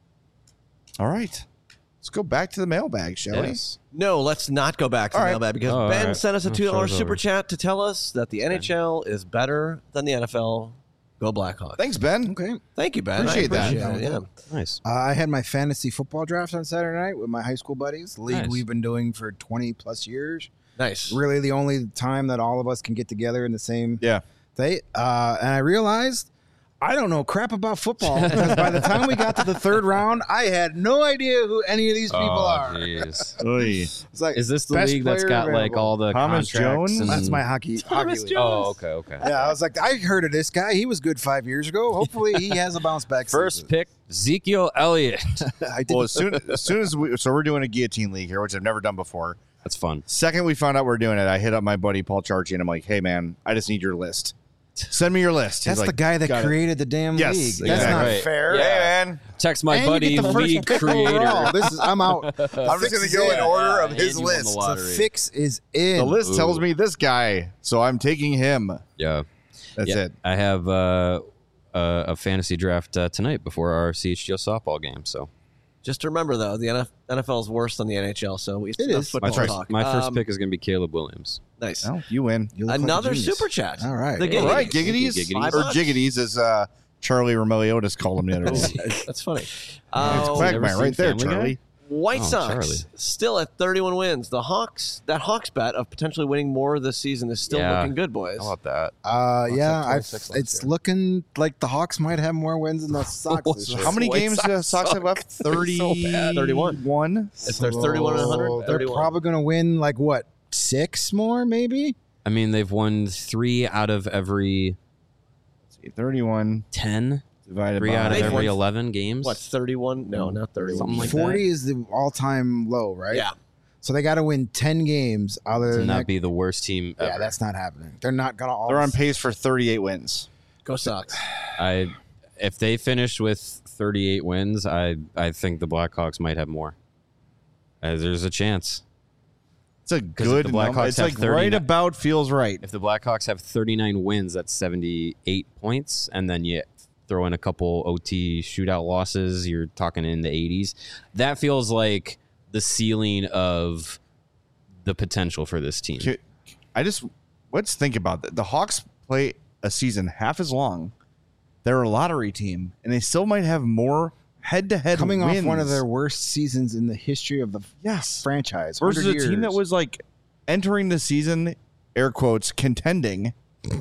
All right. Let's go back to the mailbag, shall Yes. No, let's not go back to All the right. mailbag because Oh, all Ben right. sent us a Oh, two dollar show's super over. chat to tell us that the N H L is better than the N F L. Go Blackhawks. we? Thanks, Ben. Okay. Thank you, Ben. Appreciate I that. appreciate it. Yeah. Nice. Uh, I had my fantasy football draft on Saturday night with my high school buddies. League Nice. we've been doing for twenty plus years. Nice. Really, the only time that all of us can get together in the same Yeah. day. Uh, and I realized I don't know crap about football because by the time we got to the third round, I had no idea who any of these people oh, are. jeez. Oy. It's like Is this the best league that's player got like available. all the Thomas contracts Jones? and- That's my hockey. hockey league. Oh, okay, okay. Yeah, I was like, I heard of this guy. He was good five years ago. Hopefully, he has a bounce back. First season. pick, Ezekiel Elliott. I did. Well, as soon as soon as we, so we're doing a guillotine league here, which I've never done before. That's fun. Second we found out we're doing it, I hit up my buddy Paul Charchi and I'm like, hey man, I just need your list. Send me your list. He's That's like, the guy that "Got it." created the damn Yes, league. That's exactly. not Right. fair. Yeah. Hey man, Text my And you buddy, get the first league pick overall. creator. This is I'm out. The I'm just fix gonna is go in in. order of and his you won the list. lottery. The fix is in. The list Ooh. tells me this guy, so I'm taking him. Yeah. That's Yeah. it. I have uh, uh, a fantasy draft uh, tonight before our C H G O softball game. So Just remember, though, the N F L is worse than the N H L, so we It enough is. football That's right. talk. my first Um, pick is going to be Caleb Williams. Nice. Oh, you win. You look like a Another genius. super chat. All right. The Hey. All Giggies. right, giggities, Giggities. or jiggities, as uh, Charlie Romeliotis called him the other day. That's funny. It's Uh, Quagmire never right seen there, Family Guy? Charlie. White Oh, Sox Charlie. still at thirty-one wins. The Hawks, that Hawks bet of potentially winning more this season is still Yeah. looking good, boys. How about that? Uh, Hawks yeah, had I've, twenty-six last it's year. looking like the Hawks might have more wins than the Sox this year. How many White games do the Sox Sox have left? Thirty. thirty-one. One. If they're thirty-one and one hundred, So they're thirty-one. probably going to win like what six more, maybe. I mean, they've won three out of every Thirty-one ten, divided three by out of They've every won- eleven games. What, thirty-one? No, not thirty-one. Something like Forty is the all-time low, right? Yeah. So they got to win ten games out of To the not next- be the worst team ever. Yeah, that's not happening. They're not gonna. All They're on pace for thirty-eight wins. Go Sox. I if they finish with thirty-eight wins, I I think the Blackhawks might have more. Uh, there's a chance. It's a if good the number. Blackhawks It's have like thirty right about feels right. If the Blackhawks have thirty-nine wins, that's seventy-eight points, and then you throw in a couple O T shootout losses, you're talking in the eighties. That feels like the ceiling of the potential for this team. I just let's think about that. The Hawks play a season half as long. They're a lottery team, and they still might have more head-to-head coming wins. off one of their worst seasons in the history of the yes franchise versus a one hundred team that years. was like entering the season, air quotes, contending.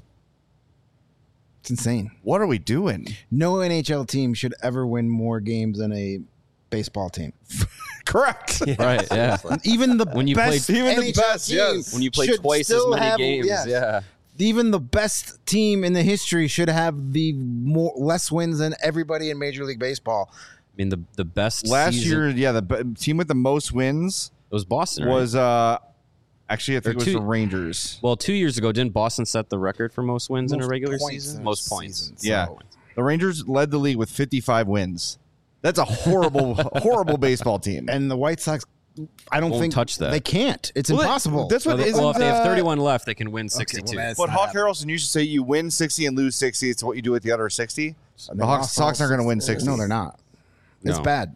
It's insane. What are we doing? No N H L team should ever win more games than a baseball team. Correct. Right, yeah. Even the When you best play- even the N H L best, team yes. When you play should twice as still many have- games, yes. yeah. Even the best team in the history should have the more less wins than everybody in Major League Baseball. I mean, the the best Last season, year, yeah, the b- team with the most wins it was Boston, right? was uh actually I think Or it was two- the Rangers. Well, two years ago, didn't Boston set the record for most wins in a Most regular points season? in a Most points. season, Yeah. so- The Rangers led the league with fifty-five wins. That's a horrible, horrible baseball team. And the White Sox, I don't Won't think touch that. they can't. It's Well, impossible. That's Well, what they- isn't, well, if they have uh, thirty-one left, they can win sixty-two. that's- But not Hawk happening. Harrelson used to say you win sixty and lose sixty. It's what you do with the other sixty. They The Hawks, lost Sox all aren't going to win sixty. sixty. No, they're not. It's No. bad.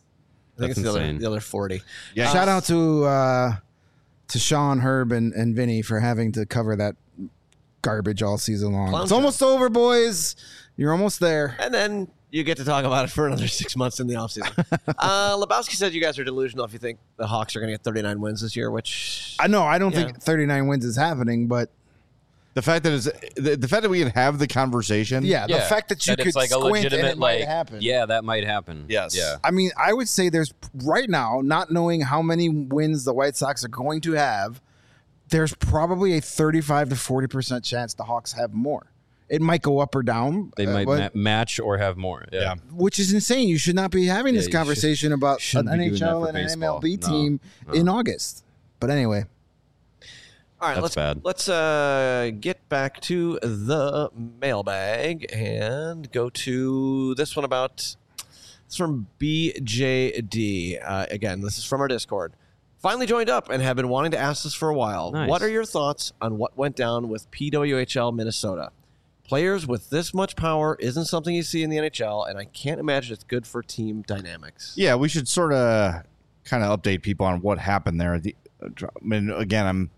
I think That's it's the other, insane. the other forty. Yeah. Shout out to uh, to Sean, Herb, and, and Vinny for having to cover that garbage all season long. Clown it's show. almost over, boys. You're almost there. And then you get to talk about it for another six months in the offseason. uh, Lebowski said you guys are delusional if you think the Hawks are going to get thirty-nine wins this year, which I know. I don't Yeah. think thirty-nine wins is happening, but The fact that it's, the, the fact that we can have the conversation. yeah, the fact that you could it's like a squint and legitimate it might like happen. yeah, that might happen. Yes. Yeah. I mean, I would say there's right now, not knowing how many wins the White Sox are going to have, there's probably a thirty-five to forty percent chance the Hawks have more. It might go up or down. They uh, might but- ma- match or have more. Yeah. Yeah. which is insane. You should not be having Yeah, this you conversation about an shouldn't be N doing H that L for and an baseball. M L B No, team no. in August. But anyway, all right, That's let's bad. let's uh, get back to the mailbag and go to this one about it's from B J D. Uh, again, this is from our Discord. Finally joined up and have been wanting to ask this for a while. Nice. What are your thoughts on what went down with P W H L Minnesota? Players with this much power isn't something you see in the N H L, and I can't imagine it's good for team dynamics. Yeah, we should sort of kind of update people on what happened there. The, I mean, again, I'm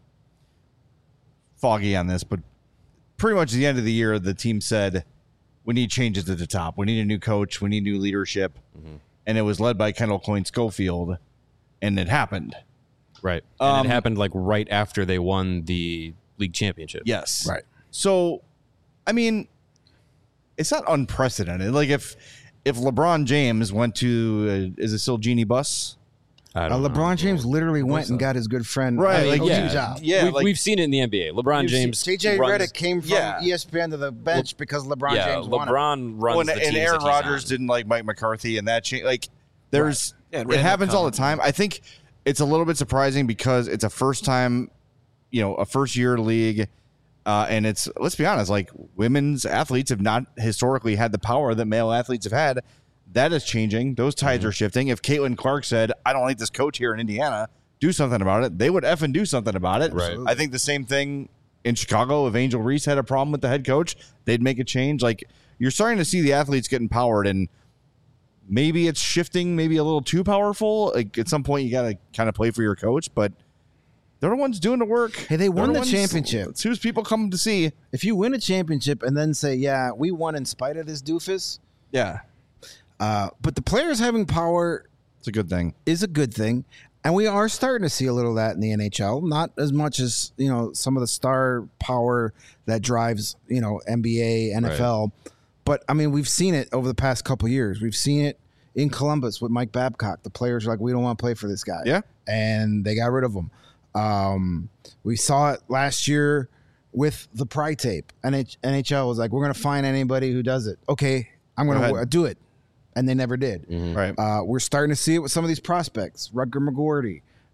foggy on this, but pretty much at the end of the year, the team said, we need changes at the top. We need a new coach. We need new leadership. Mm-hmm. And it was led by Kendall Coyne Schofield, and it happened. Right. And Um, it happened like right after they won the league championship. Yes. Right. So, I mean, it's not unprecedented. Like if if LeBron James went to, uh, is it still Genie Bus? I uh, don't know. LeBron James literally went and got his good friend Right, uh, like, coaching yeah. job. Yeah, we've, like- we've seen it in the N B A. LeBron James. J J runs- Redick came from Yeah. E S P N to the bench because LeBron yeah, James won it. LeBron runs Well, and, the and teams Aaron that he's Rodgers on. didn't like Mike McCarthy, and that changed. Like, there's Yeah, and it Randall happens all the Cobb. time. I think it's a little bit surprising because it's a first time, you know, a first year league, uh, and it's let's be honest, like women's athletes have not historically had the power that male athletes have had. That is changing. Those tides Mm-hmm. are shifting. If Caitlin Clark said, "I don't like this coach here in Indiana," do something about it. They would effing do something about it. Right. I think the same thing in Chicago. If Angel Reese had a problem with the head coach, they'd make a change. Like you're starting to see the athletes get empowered, and maybe it's shifting, maybe a little too powerful. Like at some point, you got to kind of play for your coach, but they're the ones doing the work. Hey, they They're won the ones- championship. It's who's people come to see. If you win a championship and then say, yeah, we won in spite of this doofus, Yeah, uh, but the players having power it's a good thing. is a good thing. And we are starting to see a little of that in the N H L. Not as much as, you know, some of the star power that drives, you know, N B A, N F L. But, I mean, we've seen it over the past couple of years. We've seen it in Columbus with Mike Babcock. The players are like, we don't want to play for this guy. Yeah. And they got rid of him. Um, we saw it last year with the Pry tape. N H L was like, we're going to find anybody who does it. Okay, I'm going Go to do it. And they never did. Right. Uh, we're starting to see it with some of these prospects, Rutger McGorty,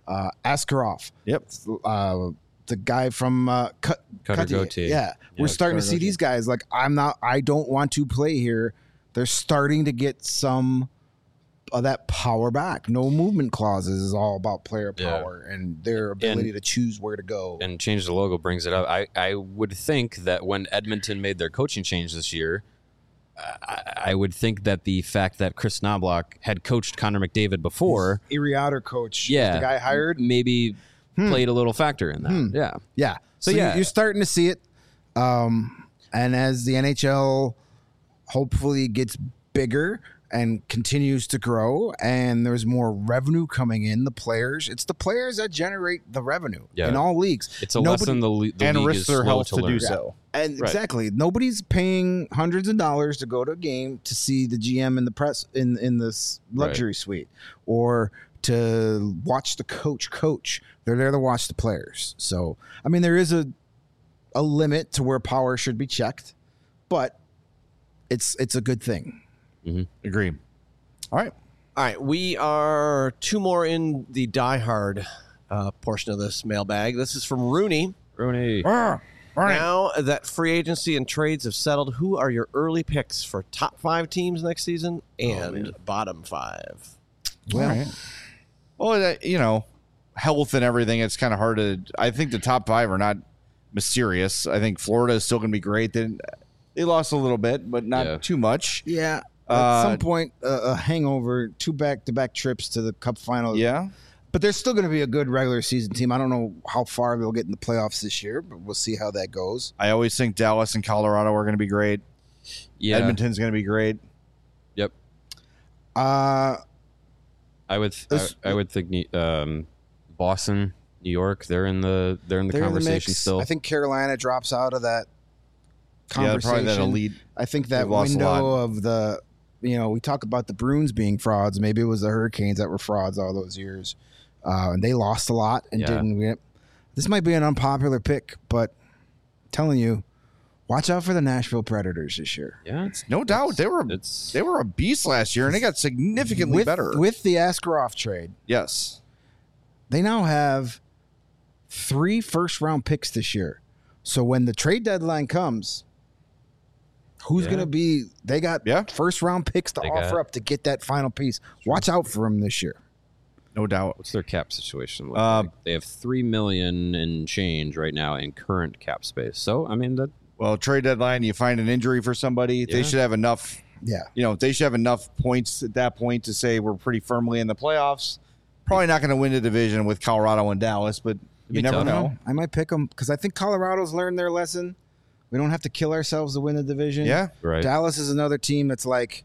uh, Askarov. Yep. Uh, the guy from uh, Cut, Cutter Cuttier. Gauthier. Yeah, we're Yeah, starting to Cutter see these guys. Like, I'm not. I don't want to play here. They're starting to get some of that power back. No movement clauses is all about player Yeah. power and their ability And- to choose where to go. And change the logo brings it up. I, I would think that when Edmonton made their coaching change this year, I, I would think that the fact that Chris Knobloch had coached Connor McDavid before, Erie Otter coach, yeah, the guy hired. maybe Hmm. played a little factor in that. Hmm. Yeah. Yeah. So, So, yeah. yeah, you're starting to see it. Um, and as the N H L hopefully gets bigger and continues to grow, and there's more revenue coming in, the players, it's the players that generate the revenue Yeah. in all leagues. It's a Nobody- lesson the, le- the And league risk is their slow health to, to learn. do so. And Right. exactly, nobody's paying hundreds of dollars to go to a game to see the G M in the press in in this luxury suite, or to watch the coach coach. They're there to watch the players. So, I mean, there is a a limit to where power should be checked, but it's it's a good thing. Agree. All right. All right, we are two more in the diehard uh, portion of this mailbag. This is from Rooney. Rooney. All right. Now that free agency and trades have settled, who are your early picks for top five teams next season and bottom five? Well, right. well, that, you know, health and everything. It's kind of hard to. I think the top five are not mysterious. I think Florida is still going to be great. They, they lost a little bit, but not Yeah. too much. Yeah. At Uh, some point, uh, a hangover, two back-to-back trips to the Cup final. Yeah. But they're still going to be a good regular season team. I don't know how far they'll get in the playoffs this year, but we'll see how that goes. I always think Dallas and Colorado are going to be great. Yeah. Edmonton's going to be great. Yep. Uh, I would. I, This- I would think um, Boston, New York. They're in the. They're in the they're in the conversation mix. still. I think Carolina drops out of that Yeah, conversation. probably that elite. I think that They've lost a window lot. of the, you know, we talk about the Bruins being frauds. Maybe it was the Hurricanes that were frauds all those years. Uh, and they lost a lot and Yeah. didn't win. This might be an unpopular pick, but I'm telling you, watch out for the Nashville Predators this year. yeah. It's, No doubt. They were it's they were a beast last year, and they got significantly with, better. With the Askarov trade, yes. they now have three first round picks this year. So when the trade deadline comes, who's Yeah. going to be? They got Yeah. first round picks to They offer got- up to get that final piece. Watch out for them this year. No doubt. What's their cap situation look Uh, like? They have three million and change right now in current cap space. So I mean that. Well, trade deadline, you find an injury for somebody, they Yeah. should have enough. Yeah. You know, they should have enough points at that point to say we're pretty firmly in the playoffs. Probably not going to win the division with Colorado and Dallas, but you be never tough. know. I might pick them because I think Colorado's learned their lesson. We don't have to kill ourselves to win the division. Yeah. Right. Dallas is another team that's like,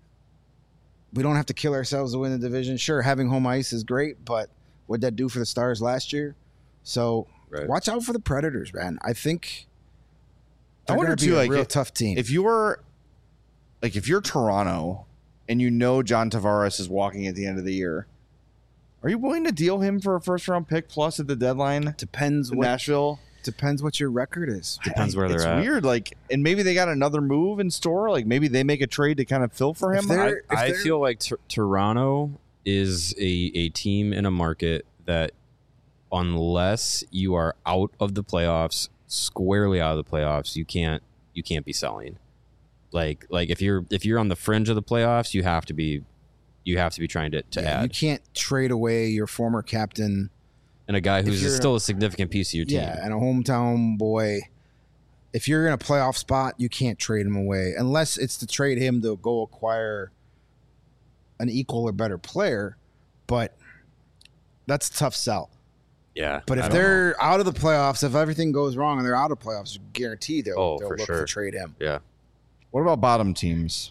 we don't have to kill ourselves to win the division. Sure, having home ice is great, but what'd that do for the Stars last year? So Right. watch out for the Predators, man. I think I they're wonder going to be too, a like, real if- tough team. If you were, like, if you're Toronto and you know John Tavares is walking at the end of the year, are you willing to deal him for a first round pick plus at the deadline depends in what Nashville? depends what your record is. Depends where it's they're at. weird. Like, and maybe they got another move in store. Like, maybe they make a trade to kind of fill for If him. they're- I- if I they're- feel like Tor- Toronto is a, a team in a market that, unless you are out of the playoffs, squarely out of the playoffs, you can't you can't be selling. Like like if you're if you're on the fringe of the playoffs, you have to be you have to be trying to, to Yeah, you add. can't trade away your former captain. And a guy who's you're- still a significant piece of your team. Yeah, and a hometown boy. If you're in a playoff spot, you can't trade him away unless it's to trade him to go acquire an equal or better player. But that's a tough sell. Yeah. But I if don't know. they're out of the playoffs, if everything goes wrong and they're out of playoffs, guarantee they'll, Oh, they'll for look sure. to trade him. Yeah. what about bottom teams?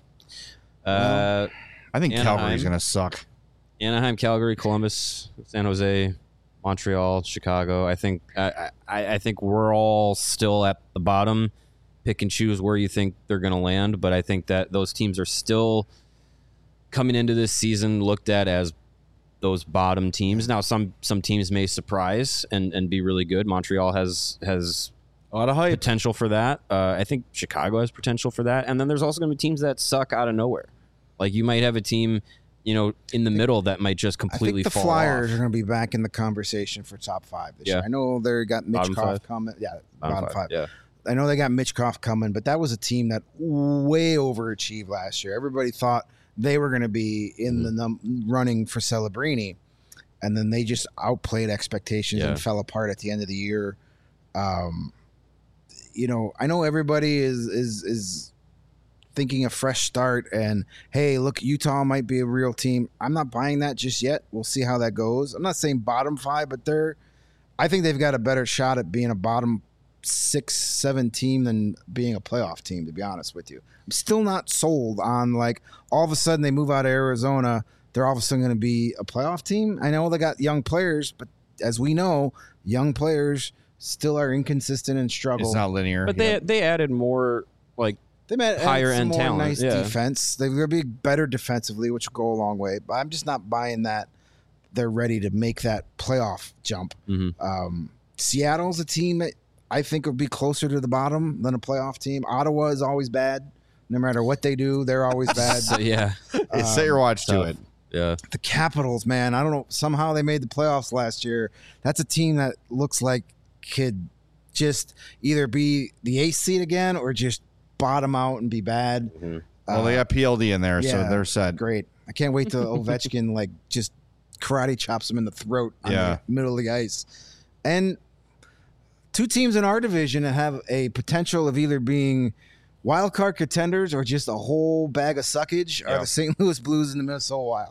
Uh I think Anaheim. Calgary's going to suck. Anaheim, Calgary, Columbus, San Jose, Montreal, Chicago. I think I, I, I think we're all still at the bottom. Pick and choose where you think they're going to land, but I think that those teams are still coming into this season looked at as those bottom teams. Now, some some teams may surprise and, and be really good. Montreal has has A lot of hype. potential for that. Uh, I think Chicago has potential for that, and then there's also going to be teams that suck out of nowhere. Like you might have a team. you know, in the middle that might just I completely think the fall Flyers off. are going to be back in the conversation for top five this Yeah. year. I know they got Bottom Mitchkov five? coming. Yeah, Bottom bottom, five. Yeah. I know they got Mitchkov coming, but that was a team that way overachieved last year. Everybody thought they were going to be in Mhm. the num- running for Celebrini, and then they just outplayed expectations Yeah. and fell apart at the end of the year. Um, you know, I know everybody is is is thinking a fresh start and hey, look, Utah might be a real team. I'm not buying that just yet. We'll see how that goes. I'm not saying bottom five, but they're I think they've got a better shot at being a bottom six, seven team than being a playoff team, to be honest with you. I'm still not sold on like all of a sudden they move out of Arizona, they're all of a sudden going to be a playoff team. I know they got young players, but as we know, young players still are inconsistent and struggle. It's not linear. But they Yep. they added more like They might higher add some end more talent, nice yeah. defense. They're going to be better defensively, which will go a long way. But I'm just not buying that they're ready to make that playoff jump. mhm. Um, Seattle's a team that I think would be closer to the bottom than a playoff team. Ottawa is always bad. No matter what they do, they're always bad. So, yeah. Hey, set your watch to tough. it. Yeah. The Capitals, man, I don't know. Somehow they made the playoffs last year. That's a team that looks like could just either be the eighth seed again or just bottom out and be bad. Mhm. Well, they Uh, got P L D in there, so yeah, they're set. Great. I can't wait till Ovechkin like just karate chops him in the throat on Yeah. the middle of the ice. And two teams in our division that have a potential of either being wild card contenders or just a whole bag of suckage are Yeah. the Saint Louis Blues and the Minnesota Wild.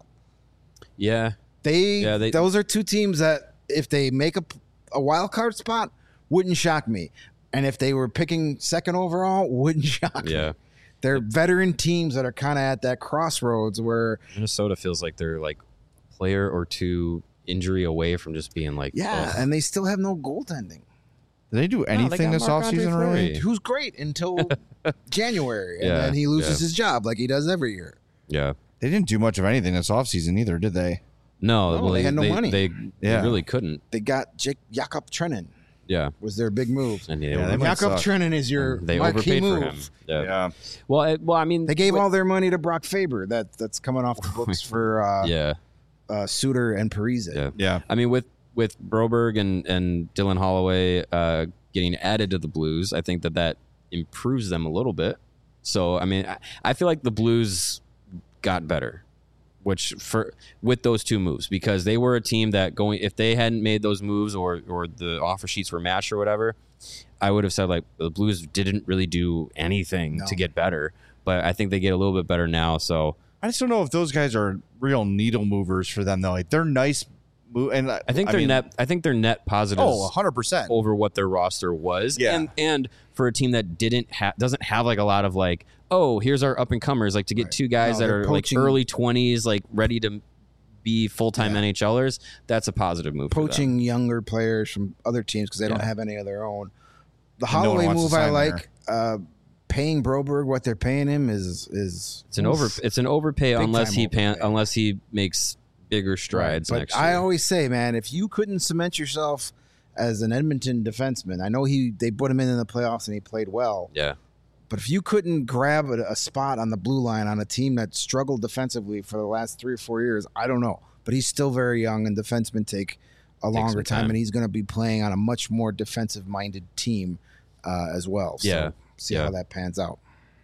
Yeah. They, Yeah, they- those are two teams that if they make a, a wild card spot, wouldn't shock me. And if they were picking second overall, wouldn't shock me. Yeah. They're veteran teams that are kind of at that crossroads where, Minnesota feels like they're like a player or two injury away from just being like, yeah, ugh. and they still have no goaltending. Did they do anything got this Marc-Andre offseason, Fleury. really? Who's great until January, and Yeah, then he loses yeah. his job like he does every year. yeah. They didn't do much of anything this offseason either, did they? No, No, well, they had no they, money. They, Yeah. they really couldn't. They got Jake Jakob Trenin Yeah. was their big move. And Yeah, yeah, they they, might Jakob suck. Trenin is your they marquee overpaid move. for him. Yeah. Well, it, well, I mean, They gave with- all their money to Brock Faber. That that's coming off the books for uh, Yeah. uh, Suter and Parise. Yeah. Yeah. I mean, with with Broberg and and Dylan Holloway uh, getting added to the Blues, I think that that improves them a little bit. So, I mean, I, I feel like the Blues got better, which for with those two moves, because they were a team that going if they hadn't made those moves or or the offer sheets were matched or whatever, I would have said like the Blues didn't really do anything No. to get better. But I think they get a little bit better now. So I just don't know if those guys are real needle movers for them, though. Like, they're nice. Move, and I think they're mean, net. I think they're net positives. Oh, one hundred percent. Over what their roster was, Yeah. and and for a team that didn't have doesn't have like a lot of like, oh, here's our up and comers, like to get Right. two guys No, that they're are poaching- like early twenties, like ready to be full time Yeah. NHLers. That's a positive move. for them. Poaching younger players from other teams because they don't Yeah. have any of their own. The And no one Holloway wants to move I sign like. Uh, paying Broberg what they're paying him is is It's an over. It's an overpay Big unless time he pan, overpay. unless he makes bigger strides But next I year. always say, man, if you couldn't cement yourself as an Edmonton defenseman, I know he they put him in in the playoffs and he played well. yeah, But if you couldn't grab a, a spot on the blue line on a team that struggled defensively for the last three or four years, I don't know. But he's still very young, and defensemen take a longer some time, time. and he's going to be playing on a much more defensive-minded team uh, as well. So Yeah. see Yeah. how that pans out.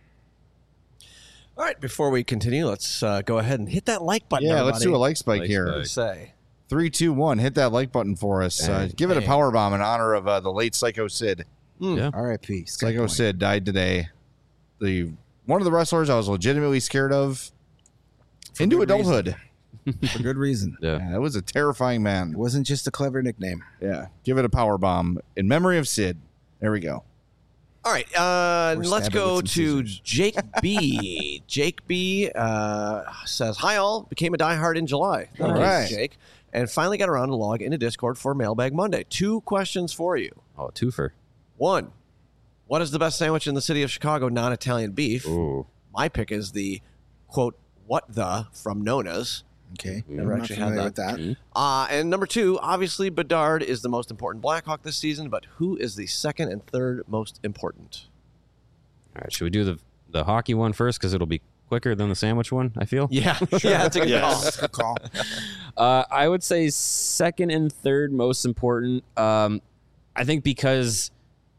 All right, before we continue, let's uh, go ahead and hit that like button. Yeah, let's do a everybody. like spike Like here. What do you say? Three, two, one. Hit that like button for us. Uh, Dang. give it a Dang. power bomb in honor of uh, the late Psycho Sid. yeah. R I P Psycho Sid died today. The one of the wrestlers I was legitimately scared of into good adulthood. for good reason. Yeah. Yeah, that was a terrifying It man. wasn't just a clever nickname. Yeah, give it a power bomb in memory of Sid. There we go. All right, uh, Or let's stab it go with some to scissors. Jake B. Jake B. Uh, says, "Hi all, became a diehard in July. Thank All you, right. Jake, and finally got around to log into Discord for Mailbag Monday. Two questions for you. Oh, a twofer. One, what is the best sandwich in the city of Chicago? Non-Italian beef. Ooh. My pick is the quote what the from Nona's. Okay. Never I'm not actually had familiar that. with that. Uh, and number two, obviously Bedard is the most important Blackhawk this season, but who is the second and third most important? All right, should we do the the hockey one first because it'll be quicker than the sandwich one, I feel. Yeah, yeah, that's a good Yes. Good call. Uh, I would say second and third most important. Um, I think because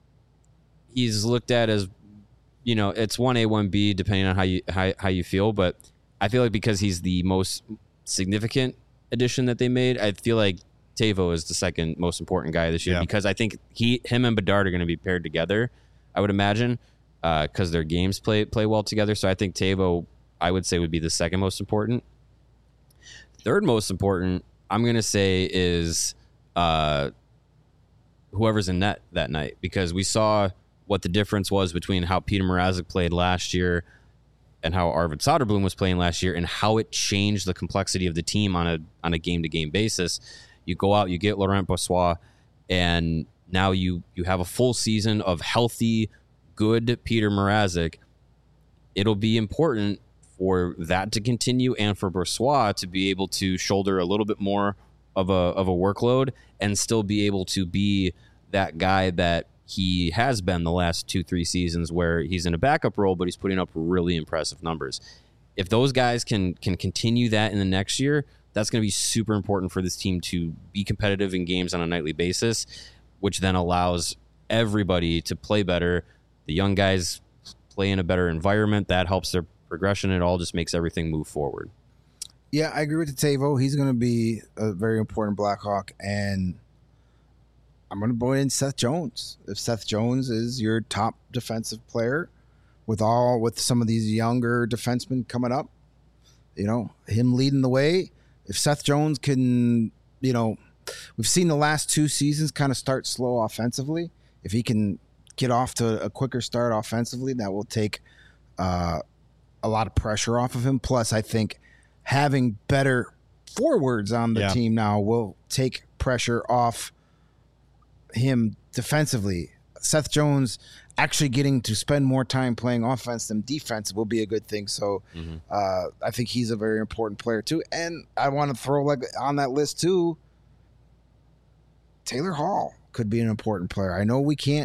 he's looked at as, you know, it's one A, one B, depending on how you how, how you feel. But I feel like because he's the most significant addition that they made, I feel like Tavo is the second most important guy this year Yeah. because I think he, him and Bedard are going to be paired together, I would imagine, because uh, their games play play well together. So I think Tavo, I would say, would be the second most important. Third most important, I'm going to say, is uh, whoever's in net that night, because we saw what the difference was between how Peter Mrazek played last year and how Arvid Soderblom was playing last year and how it changed the complexity of the team on a on a game-to-game basis. You go out, you get Laurent Brossoit, and now you you have a full season of healthy, good Peter Mrazek. It'll be important for that to continue and for Brossoit to be able to shoulder a little bit more of a of a workload and still be able to be that guy that he has been the last two, three seasons where he's in a backup role, but he's putting up really impressive numbers. If those guys can can continue that in the next year, that's going to be super important for this team to be competitive in games on a nightly basis, which then allows everybody to play better. The young guys play in a better environment. That helps their progression. It all just makes everything move forward. Yeah, I agree with Tavo. He's going to be a very important Blackhawk, and I'm going to put in Seth Jones. If Seth Jones is your top defensive player, with all with some of these younger defensemen coming up, you know, him leading the way. If Seth Jones can, you know, we've seen the last two seasons kind of start slow offensively. If he can get off to a quicker start offensively, that will take uh, a lot of pressure off of him. Plus, I think having better forwards on the Yeah. team now will take pressure off him defensively. Seth Jones actually getting to spend more time playing offense than defense will be a good thing. So Mm-hmm. uh, I think he's a very important player too. And I want to throw like on that list too, Taylor Hall could be an important player. I know we can't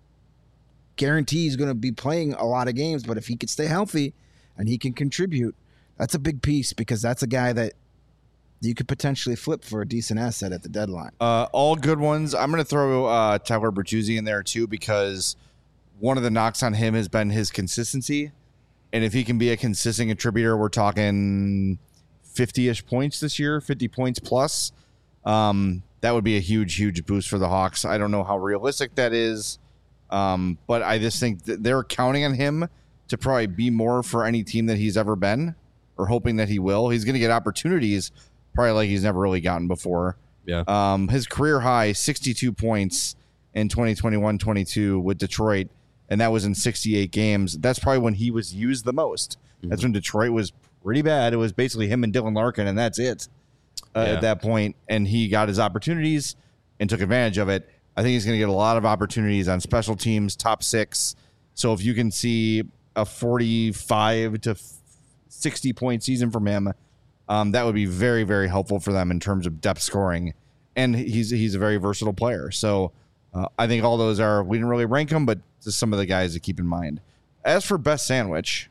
guarantee he's going to be playing a lot of games, but if he could stay healthy and he can contribute, that's a big piece because that's a guy that you could potentially flip for a decent asset at the deadline. Uh, all good ones. I'm going to throw uh, Tyler Bertuzzi in there too because one of the knocks on him has been his consistency. And if he can be a consistent contributor, we're talking fifty-ish points this year, fifty points plus. Um, that would be a huge, huge boost for the Hawks. I don't know how realistic that is, um, but I just think that they're counting on him to probably be more for any team that he's ever been or hoping that he will. He's going to get opportunities probably like he's never really gotten before. Yeah. Um, his career high, sixty-two points in twenty twenty-one twenty-two with Detroit, and that was in sixty-eight games. That's probably when he was used the most. Mm-hmm. That's when Detroit was pretty bad. It was basically him and Dylan Larkin, and that's it uh, yeah. at that point. And he got his opportunities and took advantage of it. I think he's going to get a lot of opportunities on special teams, top six. So if you can see a forty-five to sixty point season from him, um, that would be very, very helpful for them in terms of depth scoring. And he's he's a very versatile player. So uh, I think all those are, we didn't really rank them, but just some of the guys to keep in mind. As for best sandwich,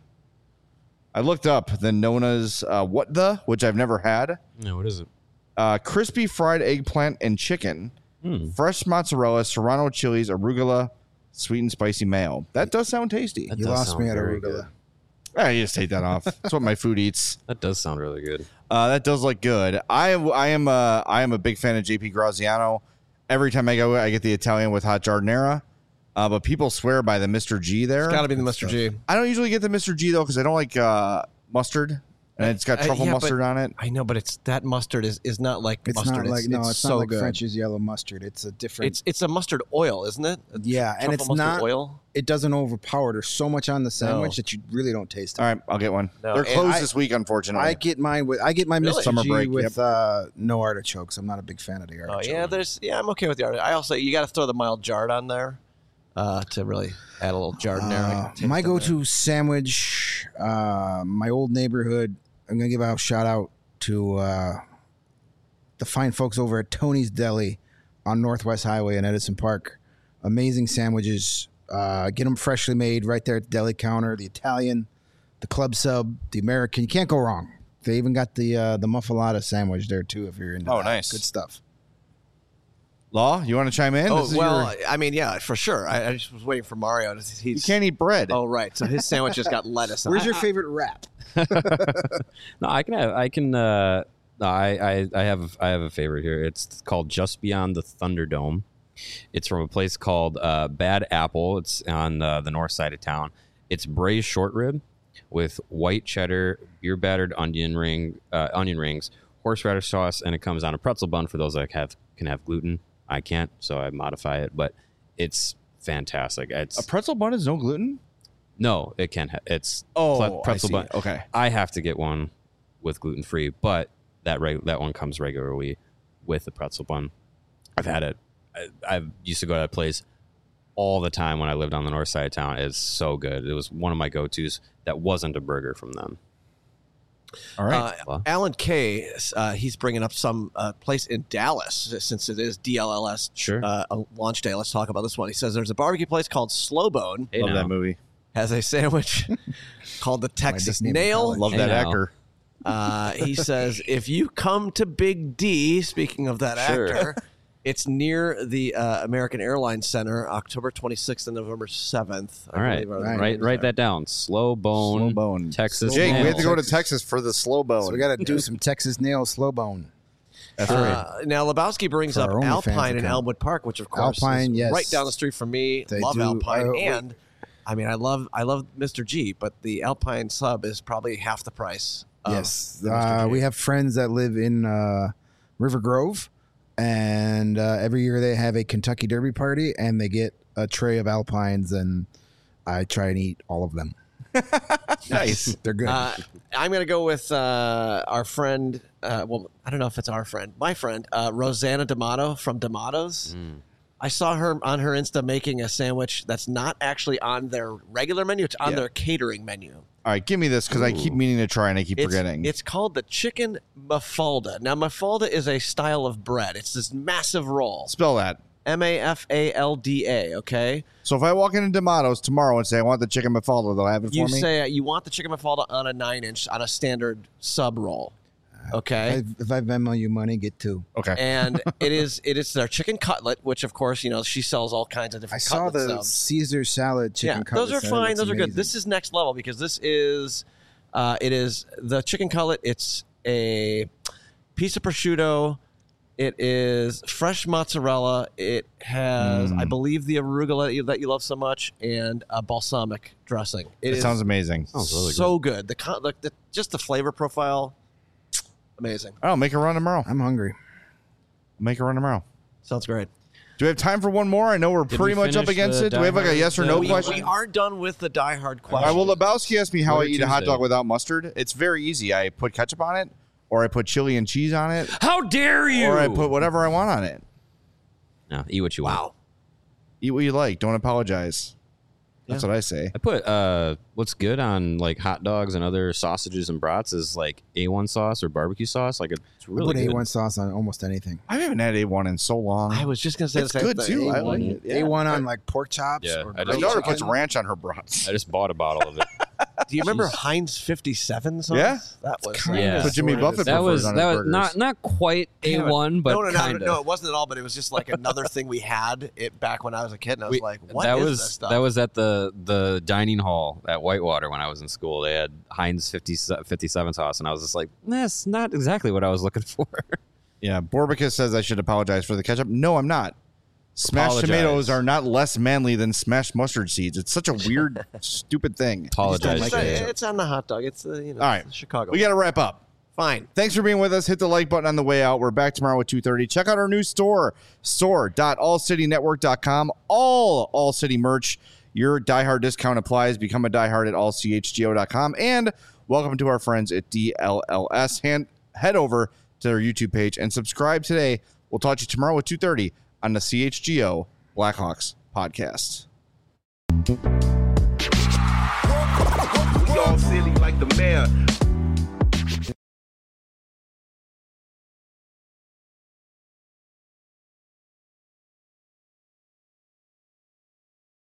I looked up the Nona's uh, What The, which I've never had. No, what is it? Uh, crispy fried eggplant and chicken, Hmm. fresh mozzarella, serrano chilies, arugula, sweet and spicy mayo. That does sound tasty. That You does lost sound me at very arugula. good. Ah, you just take that off. That's what my food eats. That does sound really good. Uh, that does look good. I I am a I am a big fan of J P Graziano. Every time I go, I get the Italian with hot giardiniera. Uh, but people swear by the Mister G there. It's got to be the Mister G. I don't usually get the Mister G though because I don't like uh, mustard, and it's got Uh, truffle yeah, mustard but- on it. I know, but it's that mustard is, is not like It's mustard. not like no, it's, so not like good. French's yellow mustard. It's a different. It's it's a mustard oil, isn't it? A yeah, and truffle it's mustard not. oil. It doesn't overpower. There's so much on the sandwich No. that you really don't taste it. All right, I'll get one. No, They're and closed I- this week, unfortunately. I get mine with I get my Really? Mister Summer G break, with uh, no artichokes. I'm not a big fan of the Oh artichoke. yeah, there's yeah. I'm okay with the artichoke. I also you got to throw the mild jarred on there uh, to really add a little giardiniera. Uh, taste my in go-to there. sandwich, uh, my old neighborhood. I'm gonna give a shout out to uh, the fine folks over at Tony's Deli on Northwest Highway in Edison Park. Amazing sandwiches. Uh, get them freshly made right there at the deli counter. The Italian the club sub, the American. You can't go wrong. They even got the uh, the muffalata sandwich there too. If you're into Oh, that. nice. Good stuff. Law, you want to chime in? Oh This is well, your- I mean, yeah, for sure. I, I just was waiting for Mario. To, he's, you can't eat bread. Oh right, so his sandwich just got lettuce. on Where's it. your favorite wrap? No, I can have. I can. Uh, no, I, I. I have. I have a favorite here. It's called Just Beyond the Thunderdome. It's from a place called uh, Bad Apple. It's on uh, the north side of town. It's braised short rib with white cheddar, beer battered onion ring, uh, onion rings, horseradish sauce, and it comes on a pretzel bun for those that have can have gluten. I can't, so I modify it. But it's fantastic. It's A pretzel bun is no gluten? no, it can. Ha- it's Oh, ple- pretzel I see. bun. Okay. I have to get one with gluten free, but that reg- that one comes regularly with the pretzel bun. I've had it. I, I used to go to that place all the time when I lived on the north side of town. It's so good. It was one of my go tos. That wasn't a burger from them. All right. Uh, Alan K, uh, he's bringing up some uh, place in Dallas since it is D L L S Sure. uh, a launch day. Let's talk about this one. He says there's a barbecue place called Slow Bone, Hey, Love now. that movie. has a sandwich called the Texas Disney Nail. Love Hey, that now. actor. Uh, he says if you come to Big D, speaking of that Sure. actor, it's near the uh, American Airlines Center, October twenty-sixth and November seventh. I All right, believe are the Right. write dates write there. that down. Slow bone, Slow bone. Texas. Jake, we Nail. have to go to Texas. Texas for the slow bone. So we got to do some Texas nail slow bone. That's right. Uh, now Lebowski brings For up our OnlyFans Alpine in account. Elmwood Park, which of course Alpine, is yes. right down the street from me. They love do. Alpine, Uh, we- and I mean, I love I love Mister G, but the Alpine sub is probably half the price. of Yes, the Mister uh, G. we have friends that live in uh, River Grove, and uh, every year they have a Kentucky Derby party, and they get a tray of Alpines, and I try and eat all of them. Nice. They're good. Uh, I'm going to go with uh, our friend. Uh, well, I don't know if it's our friend, my friend, uh, Rosanna D'Amato from D'Amato's. Mm. I saw her on her Insta making a sandwich that's not actually on their regular menu; it's on Yeah. their catering menu. All right, give me this because I keep Ooh. meaning to try and I keep It's, forgetting. it's called the chicken mafalda. Now, mafalda is a style of bread. It's this massive roll. Spell that. M A F A L D A, okay? So if I walk into D'Amato's tomorrow and say I want the chicken mafalda, they'll have it for You me. say uh, you want the chicken mafalda on a nine inch, on a standard sub roll, okay? if, if I Venmo you money, get two. okay. And it is it is their chicken cutlet, which of course, you know, she sells all kinds of I different saw cutlet the subs. Caesar salad chicken Yeah, cutlets. those are That fine. looks Those are good. amazing. This is next level because this is uh, it is the chicken cutlet. It's a piece of prosciutto. It is fresh mozzarella. It has, Mm. I believe, the arugula that you, that you love so much, and a balsamic dressing. It It is sounds amazing. Sounds really so good. The, co- the, the just the flavor profile, amazing. I'll make a run tomorrow. I'm hungry. Make a run tomorrow. Sounds great. Do we have time for one more? I know we're Did pretty we much up finish against the it. Do we have like a Die yes or Hard, no uh, we, question? we are done with the Die Hard All question. right, well, Lebowski asked me how What I a eat a hot Tuesday. dog without mustard. It's very easy. I put ketchup on it, or I put chili and cheese on it, How dare you? or I put whatever I want on it. No, eat what you want. Wow. Eat what you like. Don't apologize. That's what I say. I put uh, what's good on like hot dogs and other sausages and brats is like A one sauce or barbecue sauce. Like it's I really put good. A one sauce on almost anything. I haven't had A one in so long. I was just gonna say It's the same good, thing. too. I like A one, it. Yeah. A one on like pork chops. Yeah, or I My just- daughter chicken. puts ranch on her brats. I just bought a bottle of it. Do you remember Jeez. Heinz fifty-seven sauce? Yeah. that was kinda Yeah. So Jimmy sort of Buffett that prefers was on that his was burgers. not not quite A Damn it. one, but no, no, no, kind no, of. no, it wasn't at all. But it was just like another thing we had it back when I was a kid, and I was We- like, "What that is was this stuff?" that was at the the dining hall at Whitewater when I was in school. They had Heinz fifty, fifty-seven sauce, and I was just like, that's not exactly what I was looking for. Yeah, Borbicus says I should apologize for the ketchup. No, I'm not. Smashed Apologize. tomatoes are not less manly than smashed mustard seeds. It's such a weird, stupid thing. Apologize. it's, for on, it. it's on the hot dog. It's uh, you know, All right. it's Chicago. We got to wrap up. Fine. Thanks for being with us. Hit the like button on the way out. We're back tomorrow at two thirty. Check out our new store, store dot all city network dot com. All All City merch. Your diehard discount applies. Become a diehard at all c h g o dot com. And welcome to our friends at D L L S. Hand, head over to their YouTube page and subscribe today. We'll talk to you tomorrow at two thirty on the C H G O Blackhawks podcast. We all silly like the mayor.